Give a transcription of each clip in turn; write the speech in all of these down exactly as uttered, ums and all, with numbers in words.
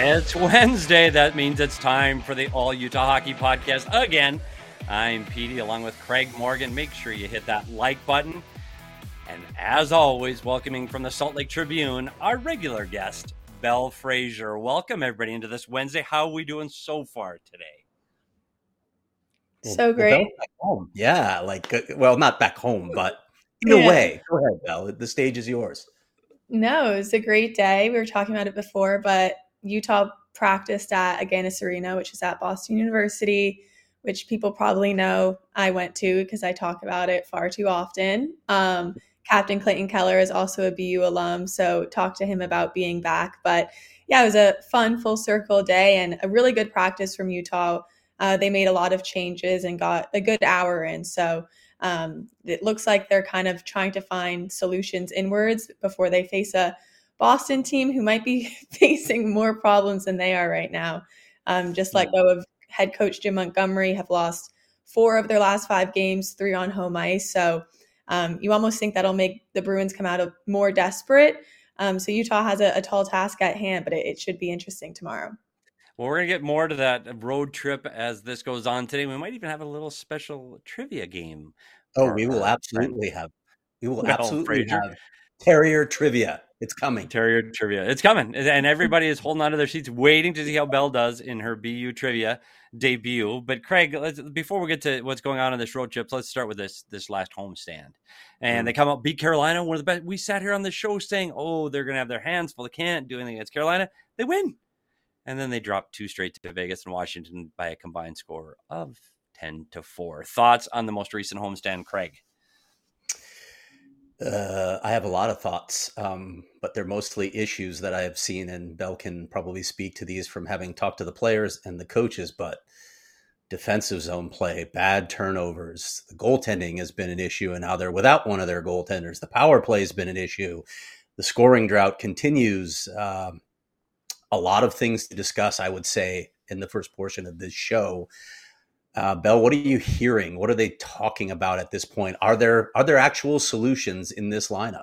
It's Wednesday. That means it's time for the All Utah Hockey Podcast again. I'm Petey along with Craig Morgan. Make sure you hit that like button. And as always, welcoming from the Salt Lake Tribune, our regular guest, Belle Fraser. Welcome everybody into this Wednesday. How are we doing so far today? So great. Well, back home. Yeah, like, well, not back home, but in yeah. a way. Go ahead, Belle. The stage is yours. No, it was a great day. We were talking about it before, but Utah practiced at Agganis Arena, which is at Boston University, which people probably know I went to because I talk about it far too often. Um, Captain Clayton Keller is also a B U alum, so talk to him about being back. But yeah, it was a fun full circle day and a really good practice from Utah. Uh, they made a lot of changes and got a good hour in. So um, it looks like they're kind of trying to find solutions inwards before they face a Boston team who might be facing more problems than they are right now. Um, just let go of head coach Jim Montgomery, have lost four of their last five games, three on home ice. So um, you almost think that'll make the Bruins come out of more desperate. Um, so Utah has a, a tall task at hand, but it, it should be interesting tomorrow. Well, we're going to get more to that road trip as this goes on today. We might even have a little special trivia game. Oh, we will absolutely have. We will Belle absolutely Fraser. have Terrier trivia. It's coming. Terrier trivia. It's coming. And everybody is holding on to their seats, waiting to see how Belle does in her B U trivia debut. But Craig, let's, before we get to what's going on in this road trip, let's start with this this last homestand. And mm. they come out, beat Carolina, one of the best. We sat here on the show saying, oh, they're going to have their hands full. They can't do anything against Carolina. They win. And then they dropped two straight to Vegas and Washington by a combined score of ten to four. Thoughts on the most recent homestand, Craig? Uh, I have a lot of thoughts, um, but they're mostly issues that I have seen, and Belle can probably speak to these from having talked to the players and the coaches, but defensive zone play, bad turnovers, the goaltending has been an issue, and now they're without one of their goaltenders. The power play has been an issue. The scoring drought continues. Um, A lot of things to discuss, I would say, in the first portion of this show. Uh, Belle, what are you hearing? What are they talking about at this point? Are there are there actual solutions in this lineup?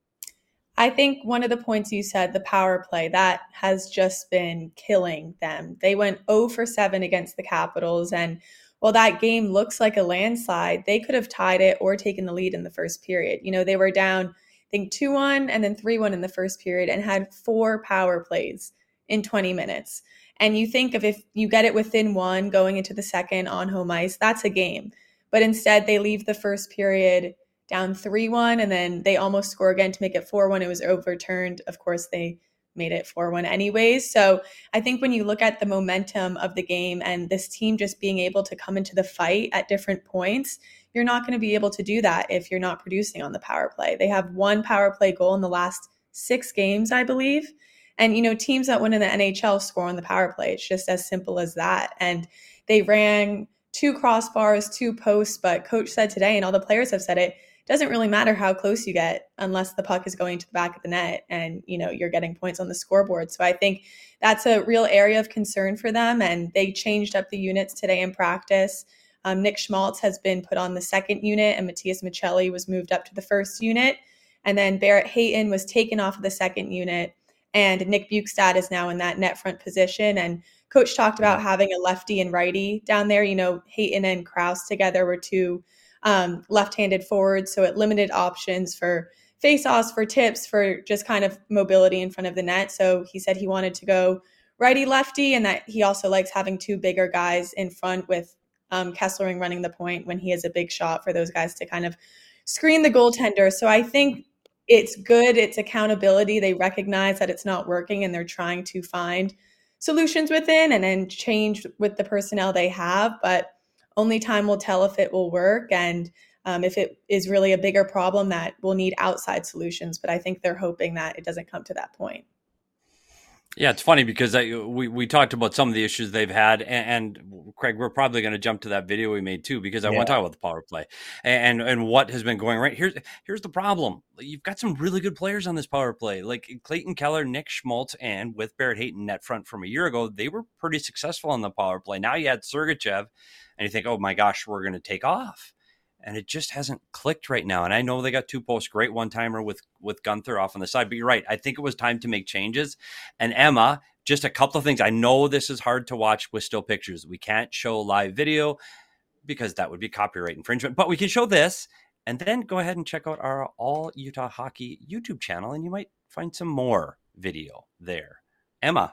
I think one of the points you said, the power play, that has just been killing them. They went zero for seven against the Capitals, and while that game looks like a landslide, they could have tied it or taken the lead in the first period. You know, they were down, I think, two one and then three one in the first period and had four power plays in twenty minutes. And you think of if you get it within one going into the second on home ice, that's a game. But instead they leave the first period down three one and then they almost score again to make it four one. It was overturned. Of course, they made it four one anyways. So I think when you look at the momentum of the game and this team just being able to come into the fight at different points, you're not going to be able to do that if you're not producing on the power play. They have one power play goal in the last six games, I believe. And, you know, teams that win in the N H L score on the power play. It's just as simple as that. And they ran two crossbars, two posts, but coach said today, and all the players have said it, doesn't really matter how close you get unless the puck is going to the back of the net and, you know, you're getting points on the scoreboard. So I think that's a real area of concern for them. And they changed up the units today in practice. Um, Nick Schmaltz has been put on the second unit and Matthias Michelli was moved up to the first unit. And then Barrett Hayton was taken off of the second unit. And Nick Bukestad is now in that net front position. And coach talked about having a lefty and righty down there. You know, Hayton and Krause together were two um, left-handed forwards. So it limited options for face-offs, for tips, for just kind of mobility in front of the net. So he said he wanted to go righty-lefty and that he also likes having two bigger guys in front with um, Kesselring running the point when he has a big shot for those guys to kind of screen the goaltender. So I think it's good. It's accountability. They recognize that it's not working and they're trying to find solutions within and then change with the personnel they have. But only time will tell if it will work and um, if it is really a bigger problem that will need outside solutions. But I think they're hoping that it doesn't come to that point. Yeah, it's funny because I, we, we talked about some of the issues they've had. And, and Craig, we're probably going to jump to that video we made, too, because I yeah. want to talk about the power play and, and what has been going right. Here's, here's the problem. You've got some really good players on this power play, like Clayton Keller, Nick Schmaltz, and with Barrett Hayton net front from a year ago, they were pretty successful on the power play. Now you had Sergachev, and you think, oh, my gosh, we're going to take off. and it just hasn't clicked right now. And I know they got two posts, great one-timer with, with Gunther off on the side, but you're right. I think it was time to make changes. And Emma, just a couple of things. I know this is hard to watch with still pictures. We can't show live video because that would be copyright infringement, but we can show this, and then go ahead and check out our All Utah Hockey YouTube channel, and you might find some more video there. Emma,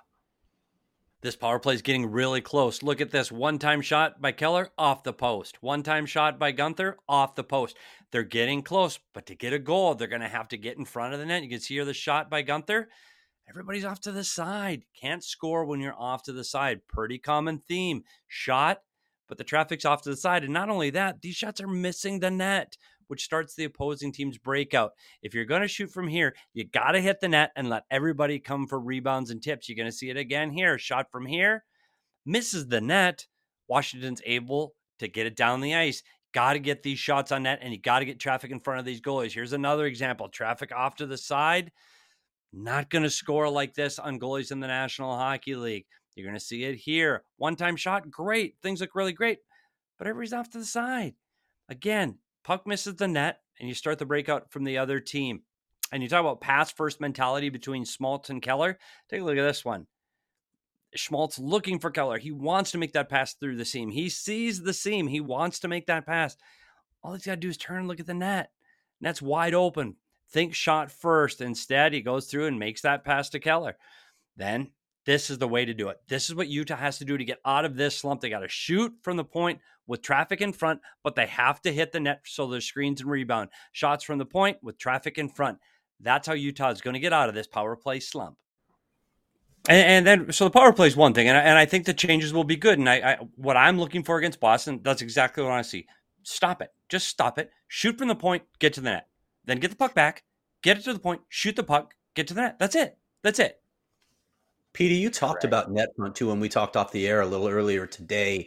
this power play is getting really close. Look at this. One-time shot by Keller, off the post. One-time shot by Gunther, off the post. They're getting close, but to get a goal, they're going to have to get in front of the net. You can see here the shot by Gunther. Everybody's off to the side. Can't score when you're off to the side. Pretty common theme. Shot, but the traffic's off to the side. And not only that, these shots are missing the net, which starts the opposing team's breakout. If you're going to shoot from here, you got to hit the net and let everybody come for rebounds and tips. You're going to see it again here. Shot from here, misses the net. Washington's able to get it down the ice. Got to get these shots on net, and you got to get traffic in front of these goalies. Here's another example. Traffic off to the side. Not going to score like this on goalies in the National Hockey League. You're going to see it here. One-time shot, great. Things look really great, but everybody's off to the side. Again, puck misses the net, and you start the breakout from the other team. And you talk about pass-first mentality between Schmaltz and Keller. Take a look at this one. Schmaltz looking for Keller. He wants to make that pass through the seam. He sees the seam. He wants to make that pass. All he's got to do is turn and look at the net. Net's wide open. Think shot first. Instead, he goes through and makes that pass to Keller. Then this is the way to do it. This is what Utah has to do to get out of this slump. They got to shoot from the point with traffic in front, but they have to hit the net so there's screens and rebound. Shots from the point with traffic in front. That's how Utah is going to get out of this power play slump. And, and then, so the power play is one thing, and I, and I think the changes will be good. And I, I, what I'm looking for against Boston, that's exactly what I want to see. Stop it. Just stop it. Shoot from the point, get to the net. Then get the puck back, get it to the point, shoot the puck, get to the net. That's it. That's it. Petey, you talked Correct. about net front too, when we talked off the air a little earlier today.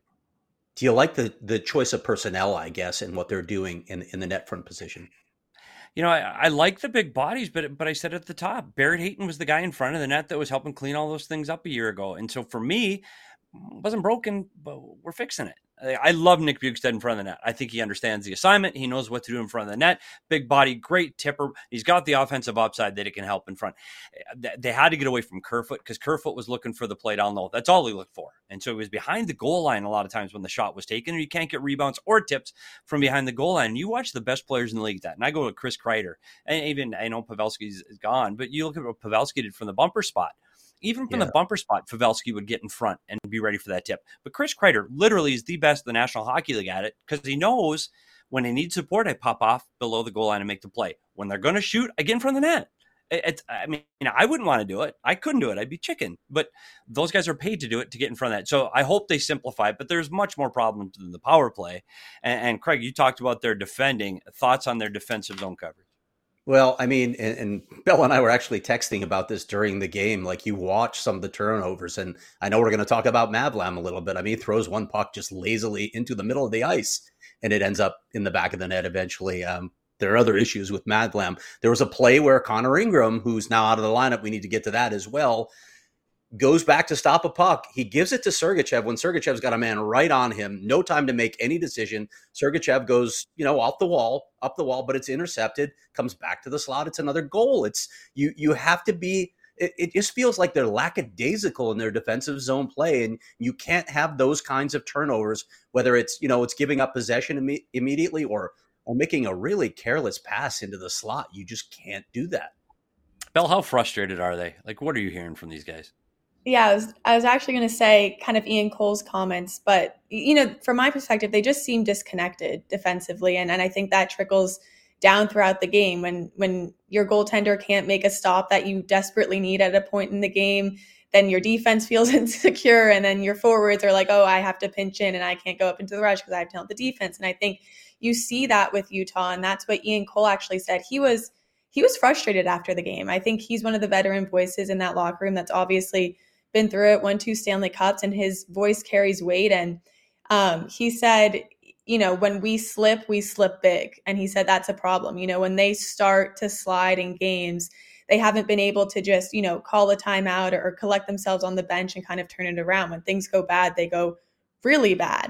Do you like the the choice of personnel, I guess, and what they're doing in in the net front position? You know, I, I like the big bodies, but but I said at the top, Barrett Hayton was the guy in front of the net that was helping clean all those things up a year ago. And so for me, it wasn't broken, but we're fixing it. I love Nick Bjugstad in front of the net. I think he understands the assignment. He knows what to do in front of the net. Big body, great tipper. He's got the offensive upside that it can help in front. They had to get away from Kerfoot because Kerfoot was looking for the play down low. That's all he looked for. And so he was behind the goal line a lot of times when the shot was taken, and you can't get rebounds or tips from behind the goal line. And you watch the best players in the league that. And I go to Chris Kreider. And even, I know Pavelski's gone, but you look at what Pavelski did from the bumper spot. Even from yeah. the bumper spot, Pavelski would get in front and be ready for that tip. But Chris Kreider literally is the best in the National Hockey League at it because he knows when he needs support, I pop off below the goal line and make the play. When they're going to shoot, I get in front of the net. It's, I mean, you know, I wouldn't want to do it. I couldn't do it. I'd be chicken. But those guys are paid to do it to get in front of that. So I hope they simplify it. But there's much more problems than the power play. And, and Craig, you talked about their defending. Thoughts on their defensive zone coverage? Well, I mean, and, and Bill and I were actually texting about this during the game. Like, you watch some of the turnovers, and I know we're going to talk about Mavlam a little bit. I mean, he throws one puck just lazily into the middle of the ice, and it ends up in the back of the net eventually. Um, there are other issues with Mavlam. There was a play where Connor Ingram, who's now out of the lineup, we need to get to that as well, goes back to stop a puck. He gives it to Sergachev when Sergachev's got a man right on him. No time to make any decision. Sergachev goes, you know, off the wall, up the wall, but it's intercepted, comes back to the slot. It's another goal. It's you, you have to be, it, it just feels like they're lackadaisical in their defensive zone play. And you can't have those kinds of turnovers, whether it's, you know, it's giving up possession imme- immediately or, or making a really careless pass into the slot. You just can't do that. Bell, how frustrated are they? Like, what are you hearing from these guys? Yeah, I was, I was actually going to say kind of Ian Cole's comments, but, you know, from my perspective, they just seem disconnected defensively. And, and I think that trickles down throughout the game when, when your goaltender can't make a stop that you desperately need at a point in the game, then your defense feels insecure. And then your forwards are like, oh, I have to pinch in and I can't go up into the rush because I have to help the defense. And I think you see that with Utah. And that's what Ian Cole actually said. He was, he was frustrated after the game. I think he's one of the veteran voices in that locker room that's obviously been through it, won two Stanley Cups, and his voice carries weight. And um, he said, you know, when we slip, we slip big. And he said that's a problem. You know, when they start to slide in games, they haven't been able to just, you know, call a timeout or, or collect themselves on the bench and kind of turn it around. When things go bad, they go really bad.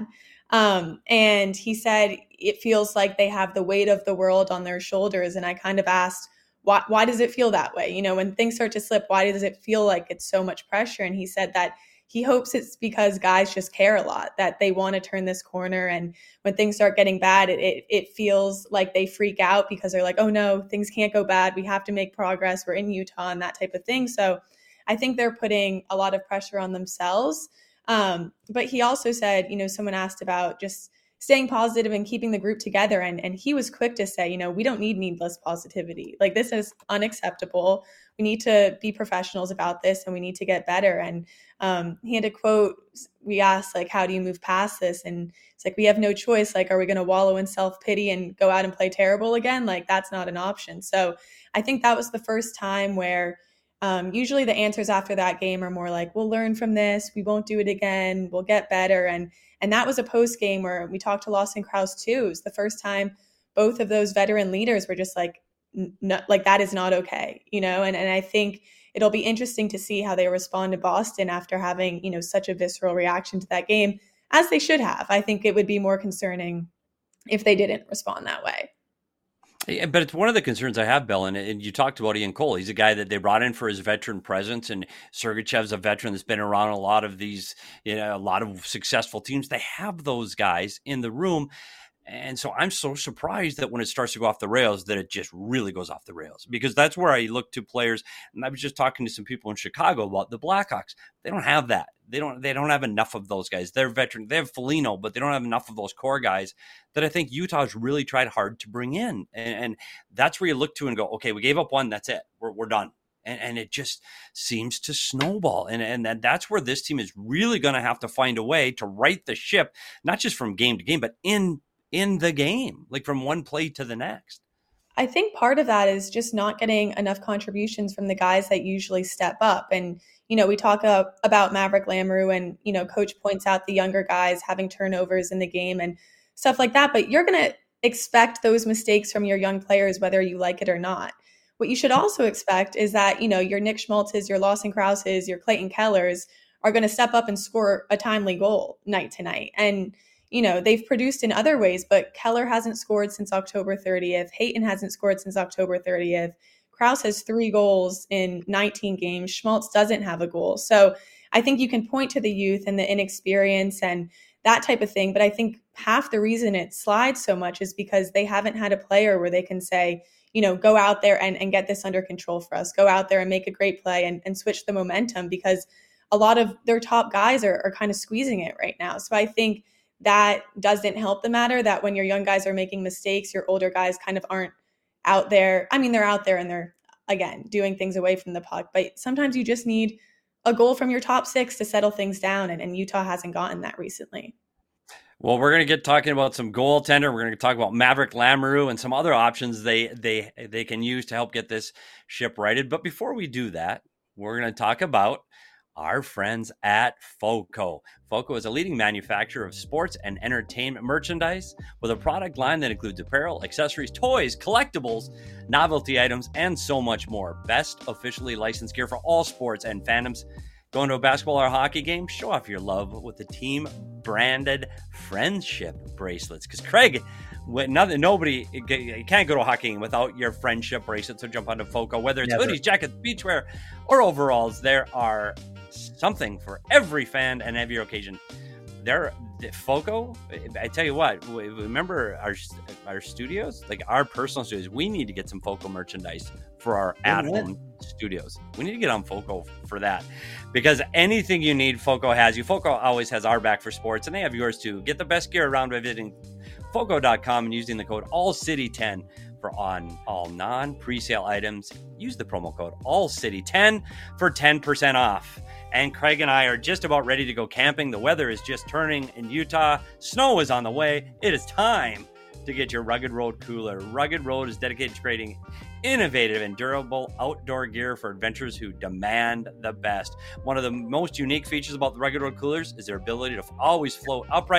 Um, and he said it feels like they have the weight of the world on their shoulders. And I kind of asked, why, why does it feel that way? You know, when things start to slip, why does it feel like it's so much pressure? And he said that he hopes it's because guys just care a lot, that they want to turn this corner. And when things start getting bad, it, it it feels like they freak out because they're like, oh no, things can't go bad. We have to make progress. We're in Utah and that type of thing. So I think they're putting a lot of pressure on themselves. Um, but he also said, you know, someone asked about just staying positive and keeping the group together. And, and he was quick to say, you know, we don't need needless positivity. Like, this is unacceptable. We need to be professionals about this and we need to get better. And um, he had a quote, we asked, like, how do you move past this? And it's like, we have no choice. Like, are we going to wallow in self-pity and go out and play terrible again? Like, that's not an option. So I think that was the first time where um, usually the answers after that game are more like, we'll learn from this. We won't do it again. We'll get better. And And that was a post game where we talked to Lawson Krause too. It was the first time both of those veteran leaders were just like, no, like that is not okay, you know? And, and I think it'll be interesting to see how they respond to Boston after having, you know, such a visceral reaction to that game, as they should have. I think it would be more concerning if they didn't respond that way. Yeah, but it's one of the concerns I have, Bill, and, and you talked about Ian Cole. He's a guy that they brought in for his veteran presence, and Sergachev's a veteran that's been around a lot of these, you know, a lot of successful teams. They have those guys in the room. And so I'm so surprised that when it starts to go off the rails, that it just really goes off the rails, because that's where I look to players. And I was just talking to some people in Chicago about the Blackhawks. They don't have that. They don't, they don't have enough of those guys. They're veteran. They have Foligno, but they don't have enough of those core guys that I think Utah's really tried hard to bring in. And, and that's where you look to and go, okay, we gave up one. That's it. We're, we're done. And, and it just seems to snowball. And, and and that's where this team is really going to have to find a way to right the ship, not just from game to game, but in in the game, like from one play to the next. I think part of that is just not getting enough contributions from the guys that usually step up. And, you know, we talk uh, about Maverick Lamoureux and, you know, coach points out the younger guys having turnovers in the game and stuff like that. But you're going to expect those mistakes from your young players, whether you like it or not. What you should also expect is that, you know, your Nick Schmaltzes, your Lawson Krauses, your Clayton Kellers are going to step up and score a timely goal night to night. And, you know, they've produced in other ways, but Keller hasn't scored since October thirtieth. Hayton hasn't scored since October thirtieth. Krause has three goals in nineteen games. Schmaltz doesn't have a goal. So I think you can point to the youth and the inexperience and that type of thing. But I think half the reason it slides so much is because they haven't had a player where they can say, you know, go out there and, and get this under control for us. Go out there and make a great play and, and switch the momentum, because a lot of their top guys are, are kind of squeezing it right now. So I think that doesn't help the matter, that when your young guys are making mistakes, your older guys kind of aren't out there. I mean, they're out there and they're, again, doing things away from the puck. But sometimes you just need a goal from your top six to settle things down. And, and Utah hasn't gotten that recently. Well, we're going to get talking about some goaltender. We're going to talk about Maverick Lamoureux and some other options they they they can use to help get this ship righted. But before we do that, we're going to talk about our friends at FOCO. FOCO is a leading manufacturer of sports and entertainment merchandise with a product line that includes apparel, accessories, toys, collectibles, novelty items, and so much more. Best officially licensed gear for all sports and fandoms. Going to a basketball or a hockey game? Show off your love with the team branded friendship bracelets. Because Craig, nothing, nobody, you can't go to a hockey game without your friendship bracelet. So jump onto FOCO. Whether it's Never. hoodies, jackets, beachwear, or overalls, there are something for every fan and every occasion. There, FOCO, I tell you what, remember our our studios, like our personal studios, we need to get some FOCO merchandise for our at-home studios. We need to get on FOCO for that, because anything you need, FOCO has you. FOCO always has our back for sports, and they have yours too. Get the best gear around by visiting foco dot com and using the code all city ten for on all non-presale items. Use the promo code all city ten for ten percent off. And Craig and I are just about ready to go camping. The weather is just turning in Utah. Snow is on the way. It is time to get your Rugged Road cooler. Rugged Road is dedicated to creating innovative and durable outdoor gear for adventurers who demand the best. One of the most unique features about the Rugged Road coolers is their ability to always float upright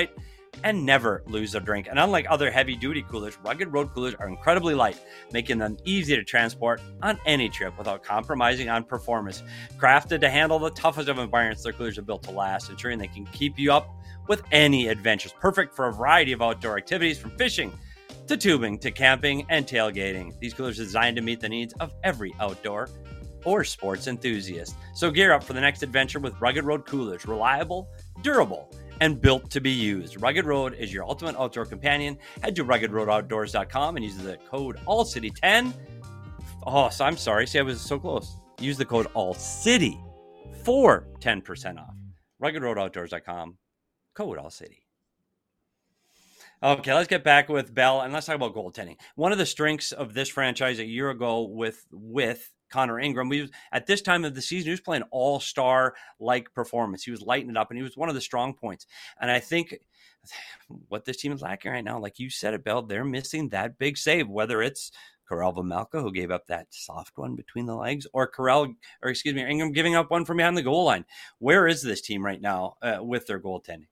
and never lose a drink. And unlike other heavy-duty coolers, Rugged Road coolers are incredibly light, making them easy to transport on any trip without compromising on performance. Crafted to handle the toughest of environments, their coolers are built to last, ensuring they can keep you up with any adventures. Perfect for a variety of outdoor activities, from fishing to tubing to camping and tailgating. These coolers are designed to meet the needs of every outdoor or sports enthusiast. So gear up for the next adventure with Rugged Road coolers. Reliable, durable, and built to be used. Rugged Road is your ultimate outdoor companion. Head to rugged road outdoors dot com and use the code all city ten. Oh, so I'm sorry. See, I was so close. Use the code ALLCITY for ten percent off. rugged road outdoors dot com. Code ALLCITY. Okay, let's get back with Bell, and let's talk about goaltending. One of the strengths of this franchise a year ago with with Connor Ingram, we was, at this time of the season, he was playing all-star-like performance. He was lighting it up, and he was one of the strong points. And I think what this team is lacking right now, like you said it, Bell, they're missing that big save, whether it's Karel Vejmelka, who gave up that soft one between the legs, or Karel, or excuse me, Ingram giving up one from behind the goal line. Where is this team right now uh, with their goaltending?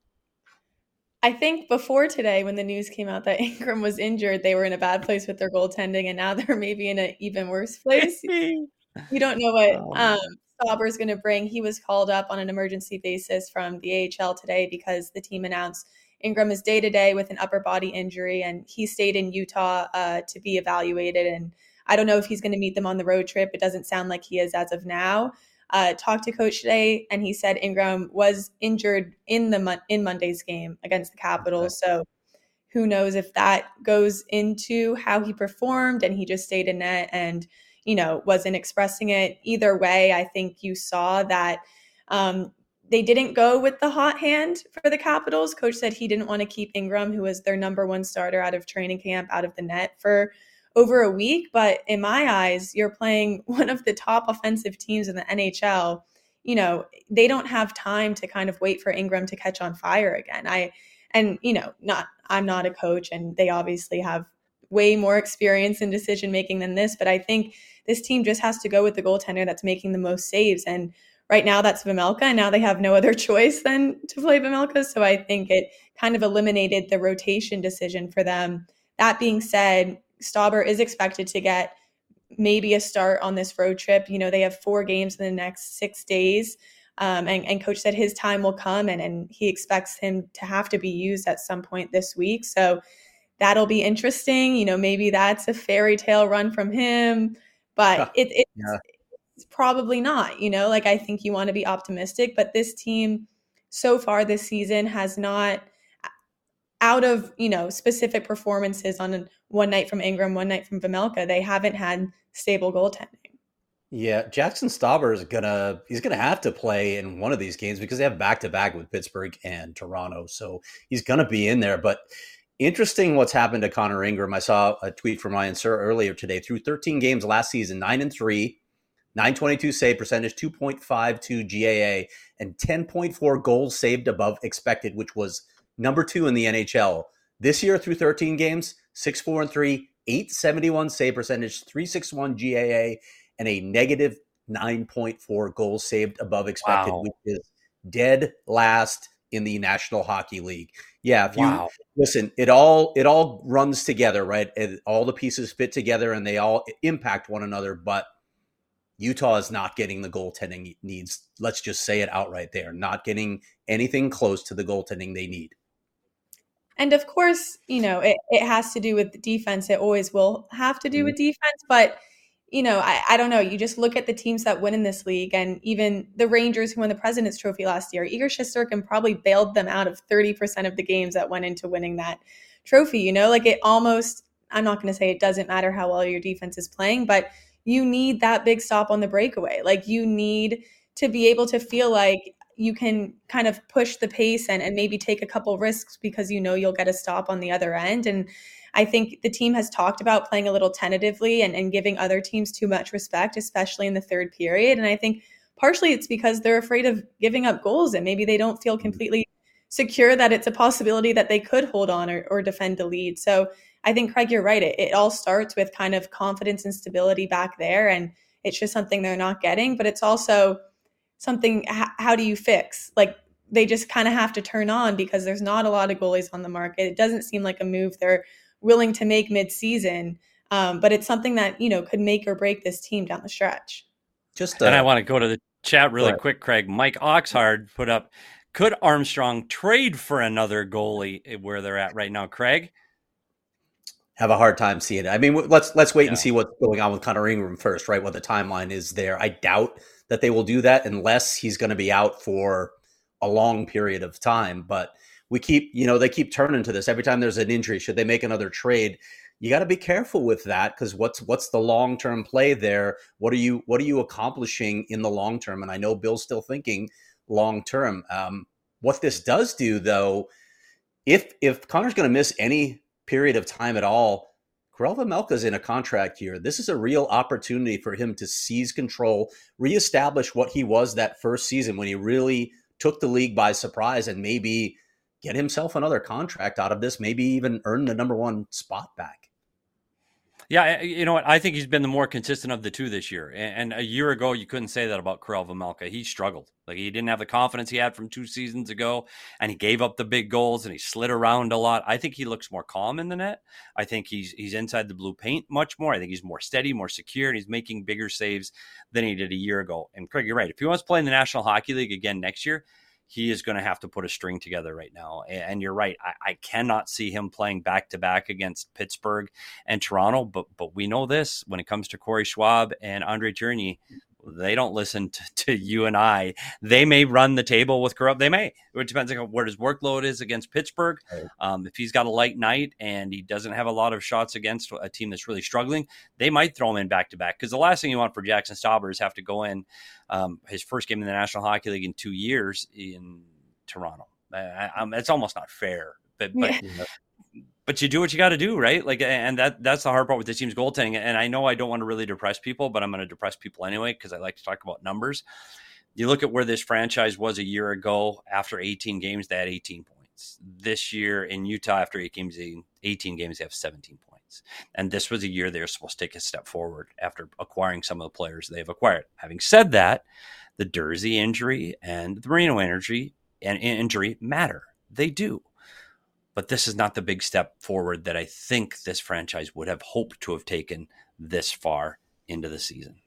I think before today, when the news came out that Ingram was injured, they were in a bad place with their goaltending, and now they're maybe in an even worse place. You don't know what um, Stauber's going to bring. He was called up on an emergency basis from the A H L today because the team announced Ingram is day-to-day with an upper body injury, and he stayed in Utah uh, to be evaluated. And I don't know if he's going to meet them on the road trip. It doesn't sound like he is as of now. Uh, talked to coach today, and he said Ingram was injured in the in Monday's game against the Capitals. Okay. So who knows if that goes into how he performed and he just stayed in net and, you know, wasn't expressing it. Either way, I think you saw that um, they didn't go with the hot hand for the Capitals. Coach said he didn't want to keep Ingram, who was their number one starter, out of training camp, out of the net for over a week. But in my eyes, you're playing one of the top offensive teams in the N H L. You know, they don't have time to kind of wait for Ingram to catch on fire again. I, and, you know, not, I'm not a coach, and they obviously have way more experience in decision-making than this, but I think this team just has to go with the goaltender that's making the most saves. And right now that's Vejmelka, and now they have no other choice than to play Vejmelka. So I think it kind of eliminated the rotation decision for them. That being said, Stauber is expected to get maybe a start on this road trip. You know, they have four games in the next six days. Um, and, and coach said his time will come, and, and he expects him to have to be used at some point this week. So that'll be interesting. You know, maybe that's a fairy tale run from him, but it, it's, yeah. it's probably not, you know, like I think you want to be optimistic, but this team so far this season has not, out of, you know, specific performances on one night from Ingram, one night from Vejmelka, they haven't had stable goaltending. Yeah, Jackson Stauber is gonna he's gonna have to play in one of these games because they have back to back with Pittsburgh and Toronto, so he's gonna be in there. But interesting what's happened to Connor Ingram. I saw a tweet from Ryan Sir earlier today. Through thirteen games last season, nine and three, nine twenty-two save percentage, two point five two G A A, and ten point four goals saved above expected, which was number two in the N H L. This year, through thirteen games, six four and three, eight seventy-one save percentage, three sixty-one G A A, and a negative nine point four goals saved above expected, wow. which is dead last in the National Hockey League. Yeah, if you wow. listen, it all it all runs together, right? It, all the pieces fit together and they all impact one another, but Utah is not getting the goaltending needs. Let's just say it outright. They are not getting anything close to the goaltending they need. And of course, you know, it, it has to do with the defense. It always will have to do mm-hmm. with defense, but you know, I, I don't know. You just look at the teams that win in this league, and even the Rangers who won the President's Trophy last year, Igor Shesterkin probably bailed them out of thirty percent of the games that went into winning that trophy. You know, like it almost, I'm not going to say it doesn't matter how well your defense is playing, but you need that big stop on the breakaway. Like you need to be able to feel like you can kind of push the pace and, and maybe take a couple risks because you know you'll get a stop on the other end. And I think the team has talked about playing a little tentatively and, and giving other teams too much respect, especially in the third period. And I think partially it's because they're afraid of giving up goals and maybe they don't feel completely secure that it's a possibility that they could hold on or, or defend the lead. So I think, Craig, you're right. It, it all starts with kind of confidence and stability back there. And it's just something they're not getting, but it's also something, how, how do you fix? Like they just kind of have to turn on because there's not a lot of goalies on the market. It doesn't seem like a move they're willing to make mid-season, um, but it's something that, you know, could make or break this team down the stretch. Just uh, and I want to go to the chat really quick, Craig. Mike Oxhard put up, could Armstrong trade for another goalie where they're at right now, Craig? Have a hard time seeing it. I mean, let's let's wait Yeah. and see what's going on with Connor Ingram first, right? What the timeline is there. I doubt that they will do that unless he's going to be out for a long period of time. But we keep, you know, they keep turning to this every time there's an injury. Should they make another trade? You got to be careful with that because what's what's the long term play there? What are you what are you accomplishing in the long term? And I know Bill's still thinking long term. Um, what this does do, though, if if Connor's going to miss any period of time at all, Karel Vejmelka's in a contract year. This is a real opportunity for him to seize control, reestablish what he was that first season when he really took the league by surprise, and maybe get himself another contract out of this, maybe even earn the number one spot back. Yeah, you know what? I think he's been the more consistent of the two this year. And a year ago, you couldn't say that about Karel Vejmelka. He struggled. Like, he didn't have the confidence he had from two seasons ago, and he gave up the big goals, and he slid around a lot. I think he looks more calm in the net. I think he's he's inside the blue paint much more. I think he's more steady, more secure, and he's making bigger saves than he did a year ago. And Craig, you're right. If he wants to play in the National Hockey League again next year, he is going to have to put a string together right now. And you're right. I, I cannot see him playing back-to-back against Pittsburgh and Toronto. But but we know this, when it comes to Corey Schwab and Andre Tourigny, they don't listen to, to you and I. They may run the table with Karel. They may. It depends on where his workload is against Pittsburgh. Um, if he's got a light night and he doesn't have a lot of shots against a team that's really struggling, they might throw him in back-to-back. Because the last thing you want for Jackson Stauber is have to go in um, his first game in the National Hockey League in two years in Toronto. I, I, it's almost not fair. But, but Yeah. But you do what you got to do, right? Like, and that that's the hard part with this team's goaltending. And I know I don't want to really depress people, but I'm going to depress people anyway because I like to talk about numbers. You look at where this franchise was a year ago. After eighteen games, they had eighteen points. This year in Utah, after eight games, eighteen games, they have seventeen points. And this was a year they were supposed to take a step forward after acquiring some of the players they've acquired. Having said that, the Dursey injury and the Marino injury and injury matter. They do. But this is not the big step forward that I think this franchise would have hoped to have taken this far into the season.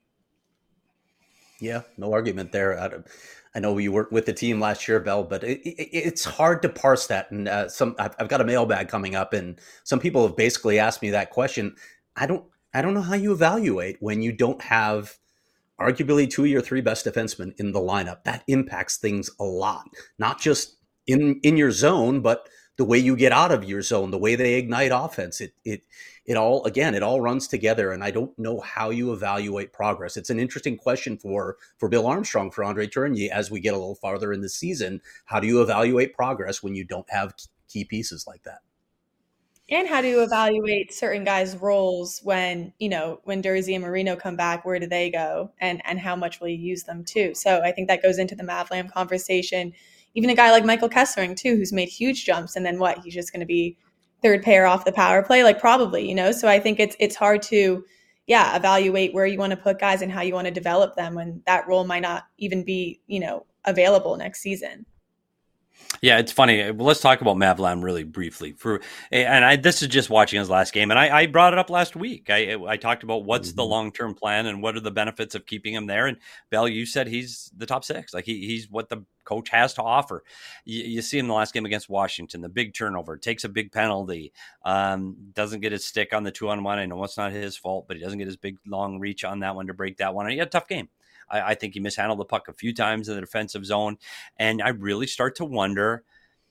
Yeah, no argument there. I know you worked with the team last year, Bell, but it, it, it's hard to parse that. And uh, some, I've, I've got a mailbag coming up, and some people have basically asked me that question. I don't, I don't know how you evaluate when you don't have arguably two of your three best defensemen in the lineup. That impacts things a lot, not just in in your zone, but the way you get out of your zone, the way they ignite offense, it it it all again, it all runs together. And I don't know how you evaluate progress. It's an interesting question for for Bill Armstrong, for Andre Tourigny, as we get a little farther in the season. How do you evaluate progress when you don't have key pieces like that? And how do you evaluate certain guys' roles when, you know, when Dursey and Marino come back, where do they go? And and how much will you use them too? So I think that goes into the Mavlam conversation. Even a guy like Michael Kessling, too, who's made huge jumps. And then what? He's just going to be third pair off the power play? Like, probably, you know? So I think it's it's hard to, yeah, evaluate where you want to put guys and how you want to develop them when that role might not even be, you know, available next season. Yeah, it's funny. Well, let's talk about Mavlam really briefly. For and I, this is just watching his last game, and I, I brought it up last week. I I talked about what's mm-hmm. the long term plan and what are the benefits of keeping him there. And Bell, you said he's the top six. Like he he's what the coach has to offer. You, you see him in the last game against Washington, the big turnover, takes a big penalty, um, doesn't get his stick on the two on one. I know it's not his fault, but he doesn't get his big long reach on that one to break that one. And he had a tough game. I think he mishandled the puck a few times in the defensive zone. And I really start to wonder,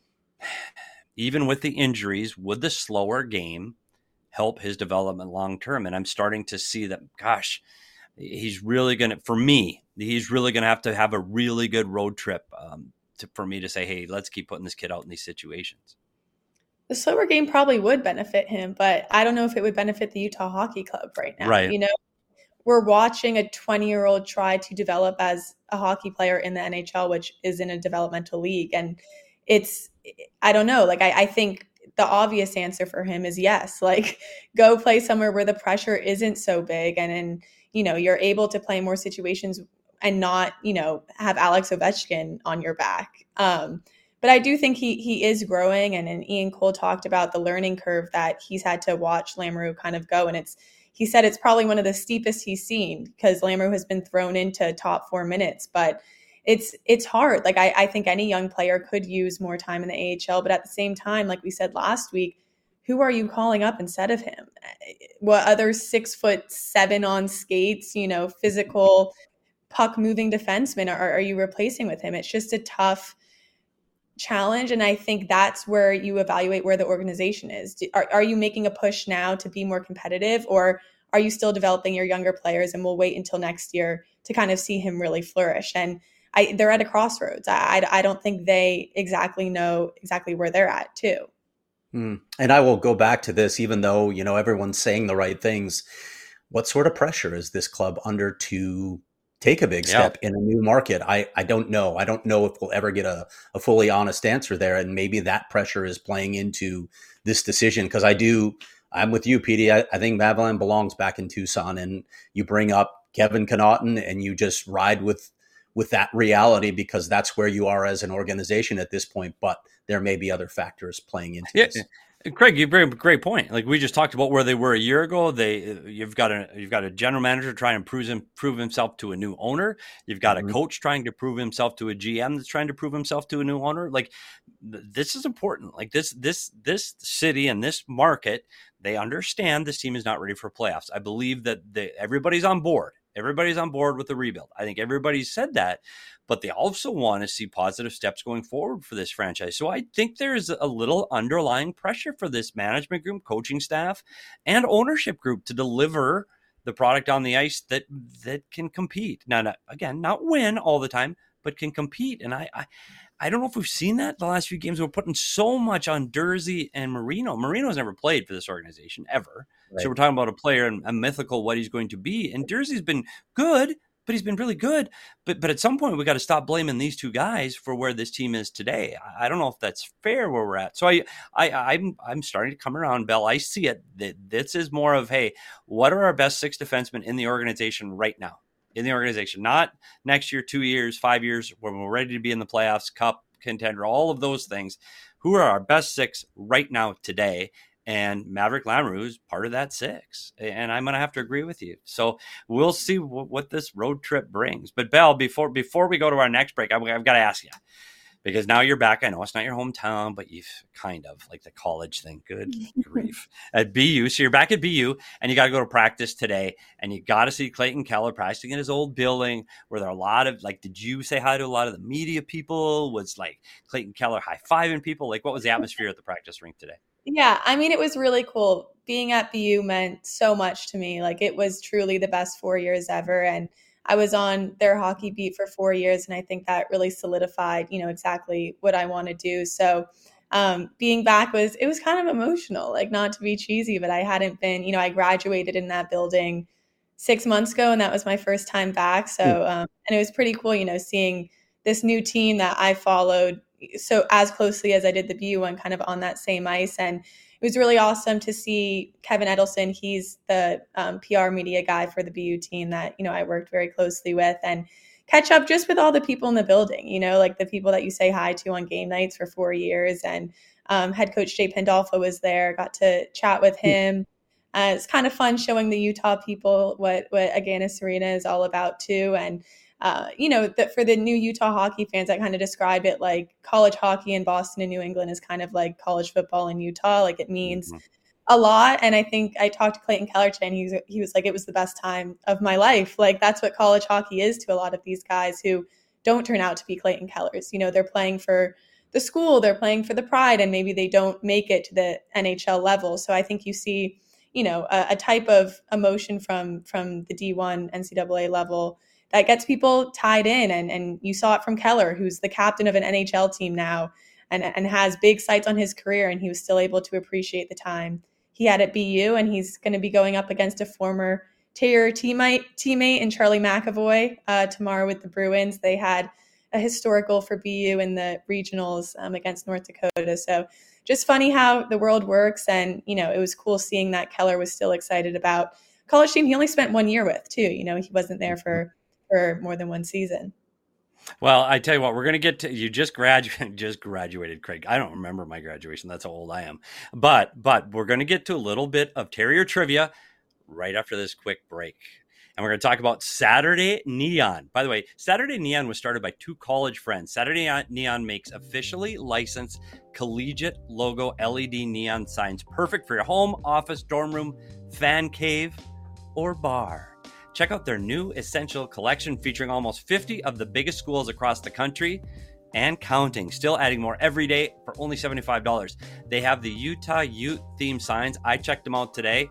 even with the injuries, would the slower game help his development long-term? And I'm starting to see that, gosh, he's really going to, for me, he's really going to have to have a really good road trip um, to, for me to say, hey, let's keep putting this kid out in these situations. The slower game probably would benefit him, but I don't know if it would benefit the Utah Hockey Club right now. Right. You know? We're watching a twenty-year-old try to develop as a hockey player in the N H L, which is in a developmental league. And it's, I don't know, like, I, I think the obvious answer for him is yes, like, go play somewhere where the pressure isn't so big. And then, you know, you're able to play more situations and not, you know, have Alex Ovechkin on your back. Um, but I do think he he is growing, and, and Ian Cole talked about the learning curve that he's had to watch Lamoureux kind of go, and it's he said it's probably one of the steepest he's seen because Lamoureux has been thrown into top four minutes, but it's it's hard. Like I, I think any young player could use more time in the A H L, but at the same time, like we said last week, who are you calling up instead of him? What other six foot seven on skates, you know, physical puck moving defensemen are, are you replacing with him? It's just a tough challenge. And I think that's where you evaluate where the organization is. Do, are, are you making a push now to be more competitive, or are you still developing your younger players and we'll wait until next year to kind of see him really flourish? And I, they're at a crossroads. I, I, I don't think they exactly know exactly where they're at too. Mm. And I will go back to this, even though, you know, everyone's saying the right things. What sort of pressure is this club under to take a big step yeah. in a new market? I, I don't know. I don't know if we'll ever get a, a fully honest answer there. And maybe that pressure is playing into this decision. Because I do, I'm with you, Petey. I, I think Madeline belongs back in Tucson, and you bring up Kevin Connaughton and you just ride with with that reality because that's where you are as an organization at this point. But there may be other factors playing into yeah. this. Craig, you bring up a great point. Like we just talked about where they were a year ago. They you've got a you've got a general manager trying to prove him prove himself to a new owner. You've got mm-hmm. a coach trying to prove himself to a G M that's trying to prove himself to a new owner. Like th- this is important. Like this this this city and this market, they understand this team is not ready for playoffs. I believe that they, everybody's on board. Everybody's on board with the rebuild. I think everybody's said that, but they also want to see positive steps going forward for this franchise. So I think there's a little underlying pressure for this management group, coaching staff, and ownership group to deliver the product on the ice that that can compete. Now, not, again, not win all the time, but can compete. And I, I, I don't know if we've seen that the last few games. We're putting so much on Durzi and Marino. Marino's never played for this organization ever. Right. So we're talking about a player and a mythical what he's going to be. And Durzi's been good, but he's been really good. But but at some point, we got to stop blaming these two guys for where this team is today. I, I don't know if that's fair where we're at. So I, I, I'm I'm starting to come around, Bell. I see it. That this is more of, hey, what are our best six defensemen in the organization right now? In the organization, not next year, two years, five years, when we're ready to be in the playoffs, cup contender, all of those things. Who are our best six right now today? And Maverick Lamoureux is part of that six. And I'm going to have to agree with you. So we'll see w- what this road trip brings. But Bell, before before we go to our next break, I've, I've got to ask you, because now you're back. I know it's not your hometown, but you've kind of like the college thing. Good grief. At B U. So you're back at B U and you got to go to practice today. And you got to see Clayton Keller practicing in his old building where there are a lot of, like, did you say hi to a lot of the media people? Was like Clayton Keller high-fiving people? Like, what was the atmosphere at the practice rink today? Yeah, I mean, it was really cool. Being at B U meant so much to me. Like, it was truly the best four years ever. And I was on their hockey beat for four years, and I think that really solidified, you know, exactly what I want to do. So um, being back was, it was kind of emotional, like, not to be cheesy, but I hadn't been, you know, I graduated in that building six months ago, and that was my first time back. So, um, and it was pretty cool, you know, seeing this new team that I followed so as closely as I did the B U one, kind of on that same ice. And it was really awesome to see Kevin Edelson. He's the um, P R media guy for the B U team that, you know, I worked very closely with, and catch up just with all the people in the building, you know, like the people that you say hi to on game nights for four years. And um, head coach Jay Pandolfo was there, got to chat with him. Uh, it's kind of fun showing the Utah people what, what Agganis Arena is all about too. And Uh, you know, that for the new Utah hockey fans, I kind of describe it like college hockey in Boston and New England is kind of like college football in Utah. Like, it means mm-hmm. a lot. And I think I talked to Clayton Keller today, and he was, he was like, it was the best time of my life. Like, that's what college hockey is to a lot of these guys who don't turn out to be Clayton Kellers. You know, they're playing for the school, they're playing for the pride, and maybe they don't make it to the N H L level. So I think you see, you know, a, a type of emotion from, from the D one N C double A level that gets people tied in. And, and you saw it from Keller, who's the captain of an N H L team now and, and has big sights on his career. And he was still able to appreciate the time he had at B U. And he's going to be going up against a former Taylor teammate, teammate in Charlie McAvoy uh, tomorrow with the Bruins. They had a historical for B U in the regionals um, against North Dakota. So just funny how the world works. And, you know, it was cool seeing that Keller was still excited about college team he only spent one year with too. You know, he wasn't there for for more than one season. Well, I tell you what, we're going to get to, you just graduated, just graduated, Craig. I don't remember my graduation. That's how old I am. But, but we're going to get to a little bit of Terrier trivia right after this quick break. And we're going to talk about Saturday Neon. By the way, Saturday Neon was started by two college friends. Saturday Neon makes officially licensed collegiate logo L E D neon signs, perfect for your home, office, dorm room, fan cave, or bar. Check out their new Essential collection featuring almost fifty of the biggest schools across the country and counting. Still adding more every day for only seventy-five dollars. They have the Utah Ute theme signs. I checked them out today.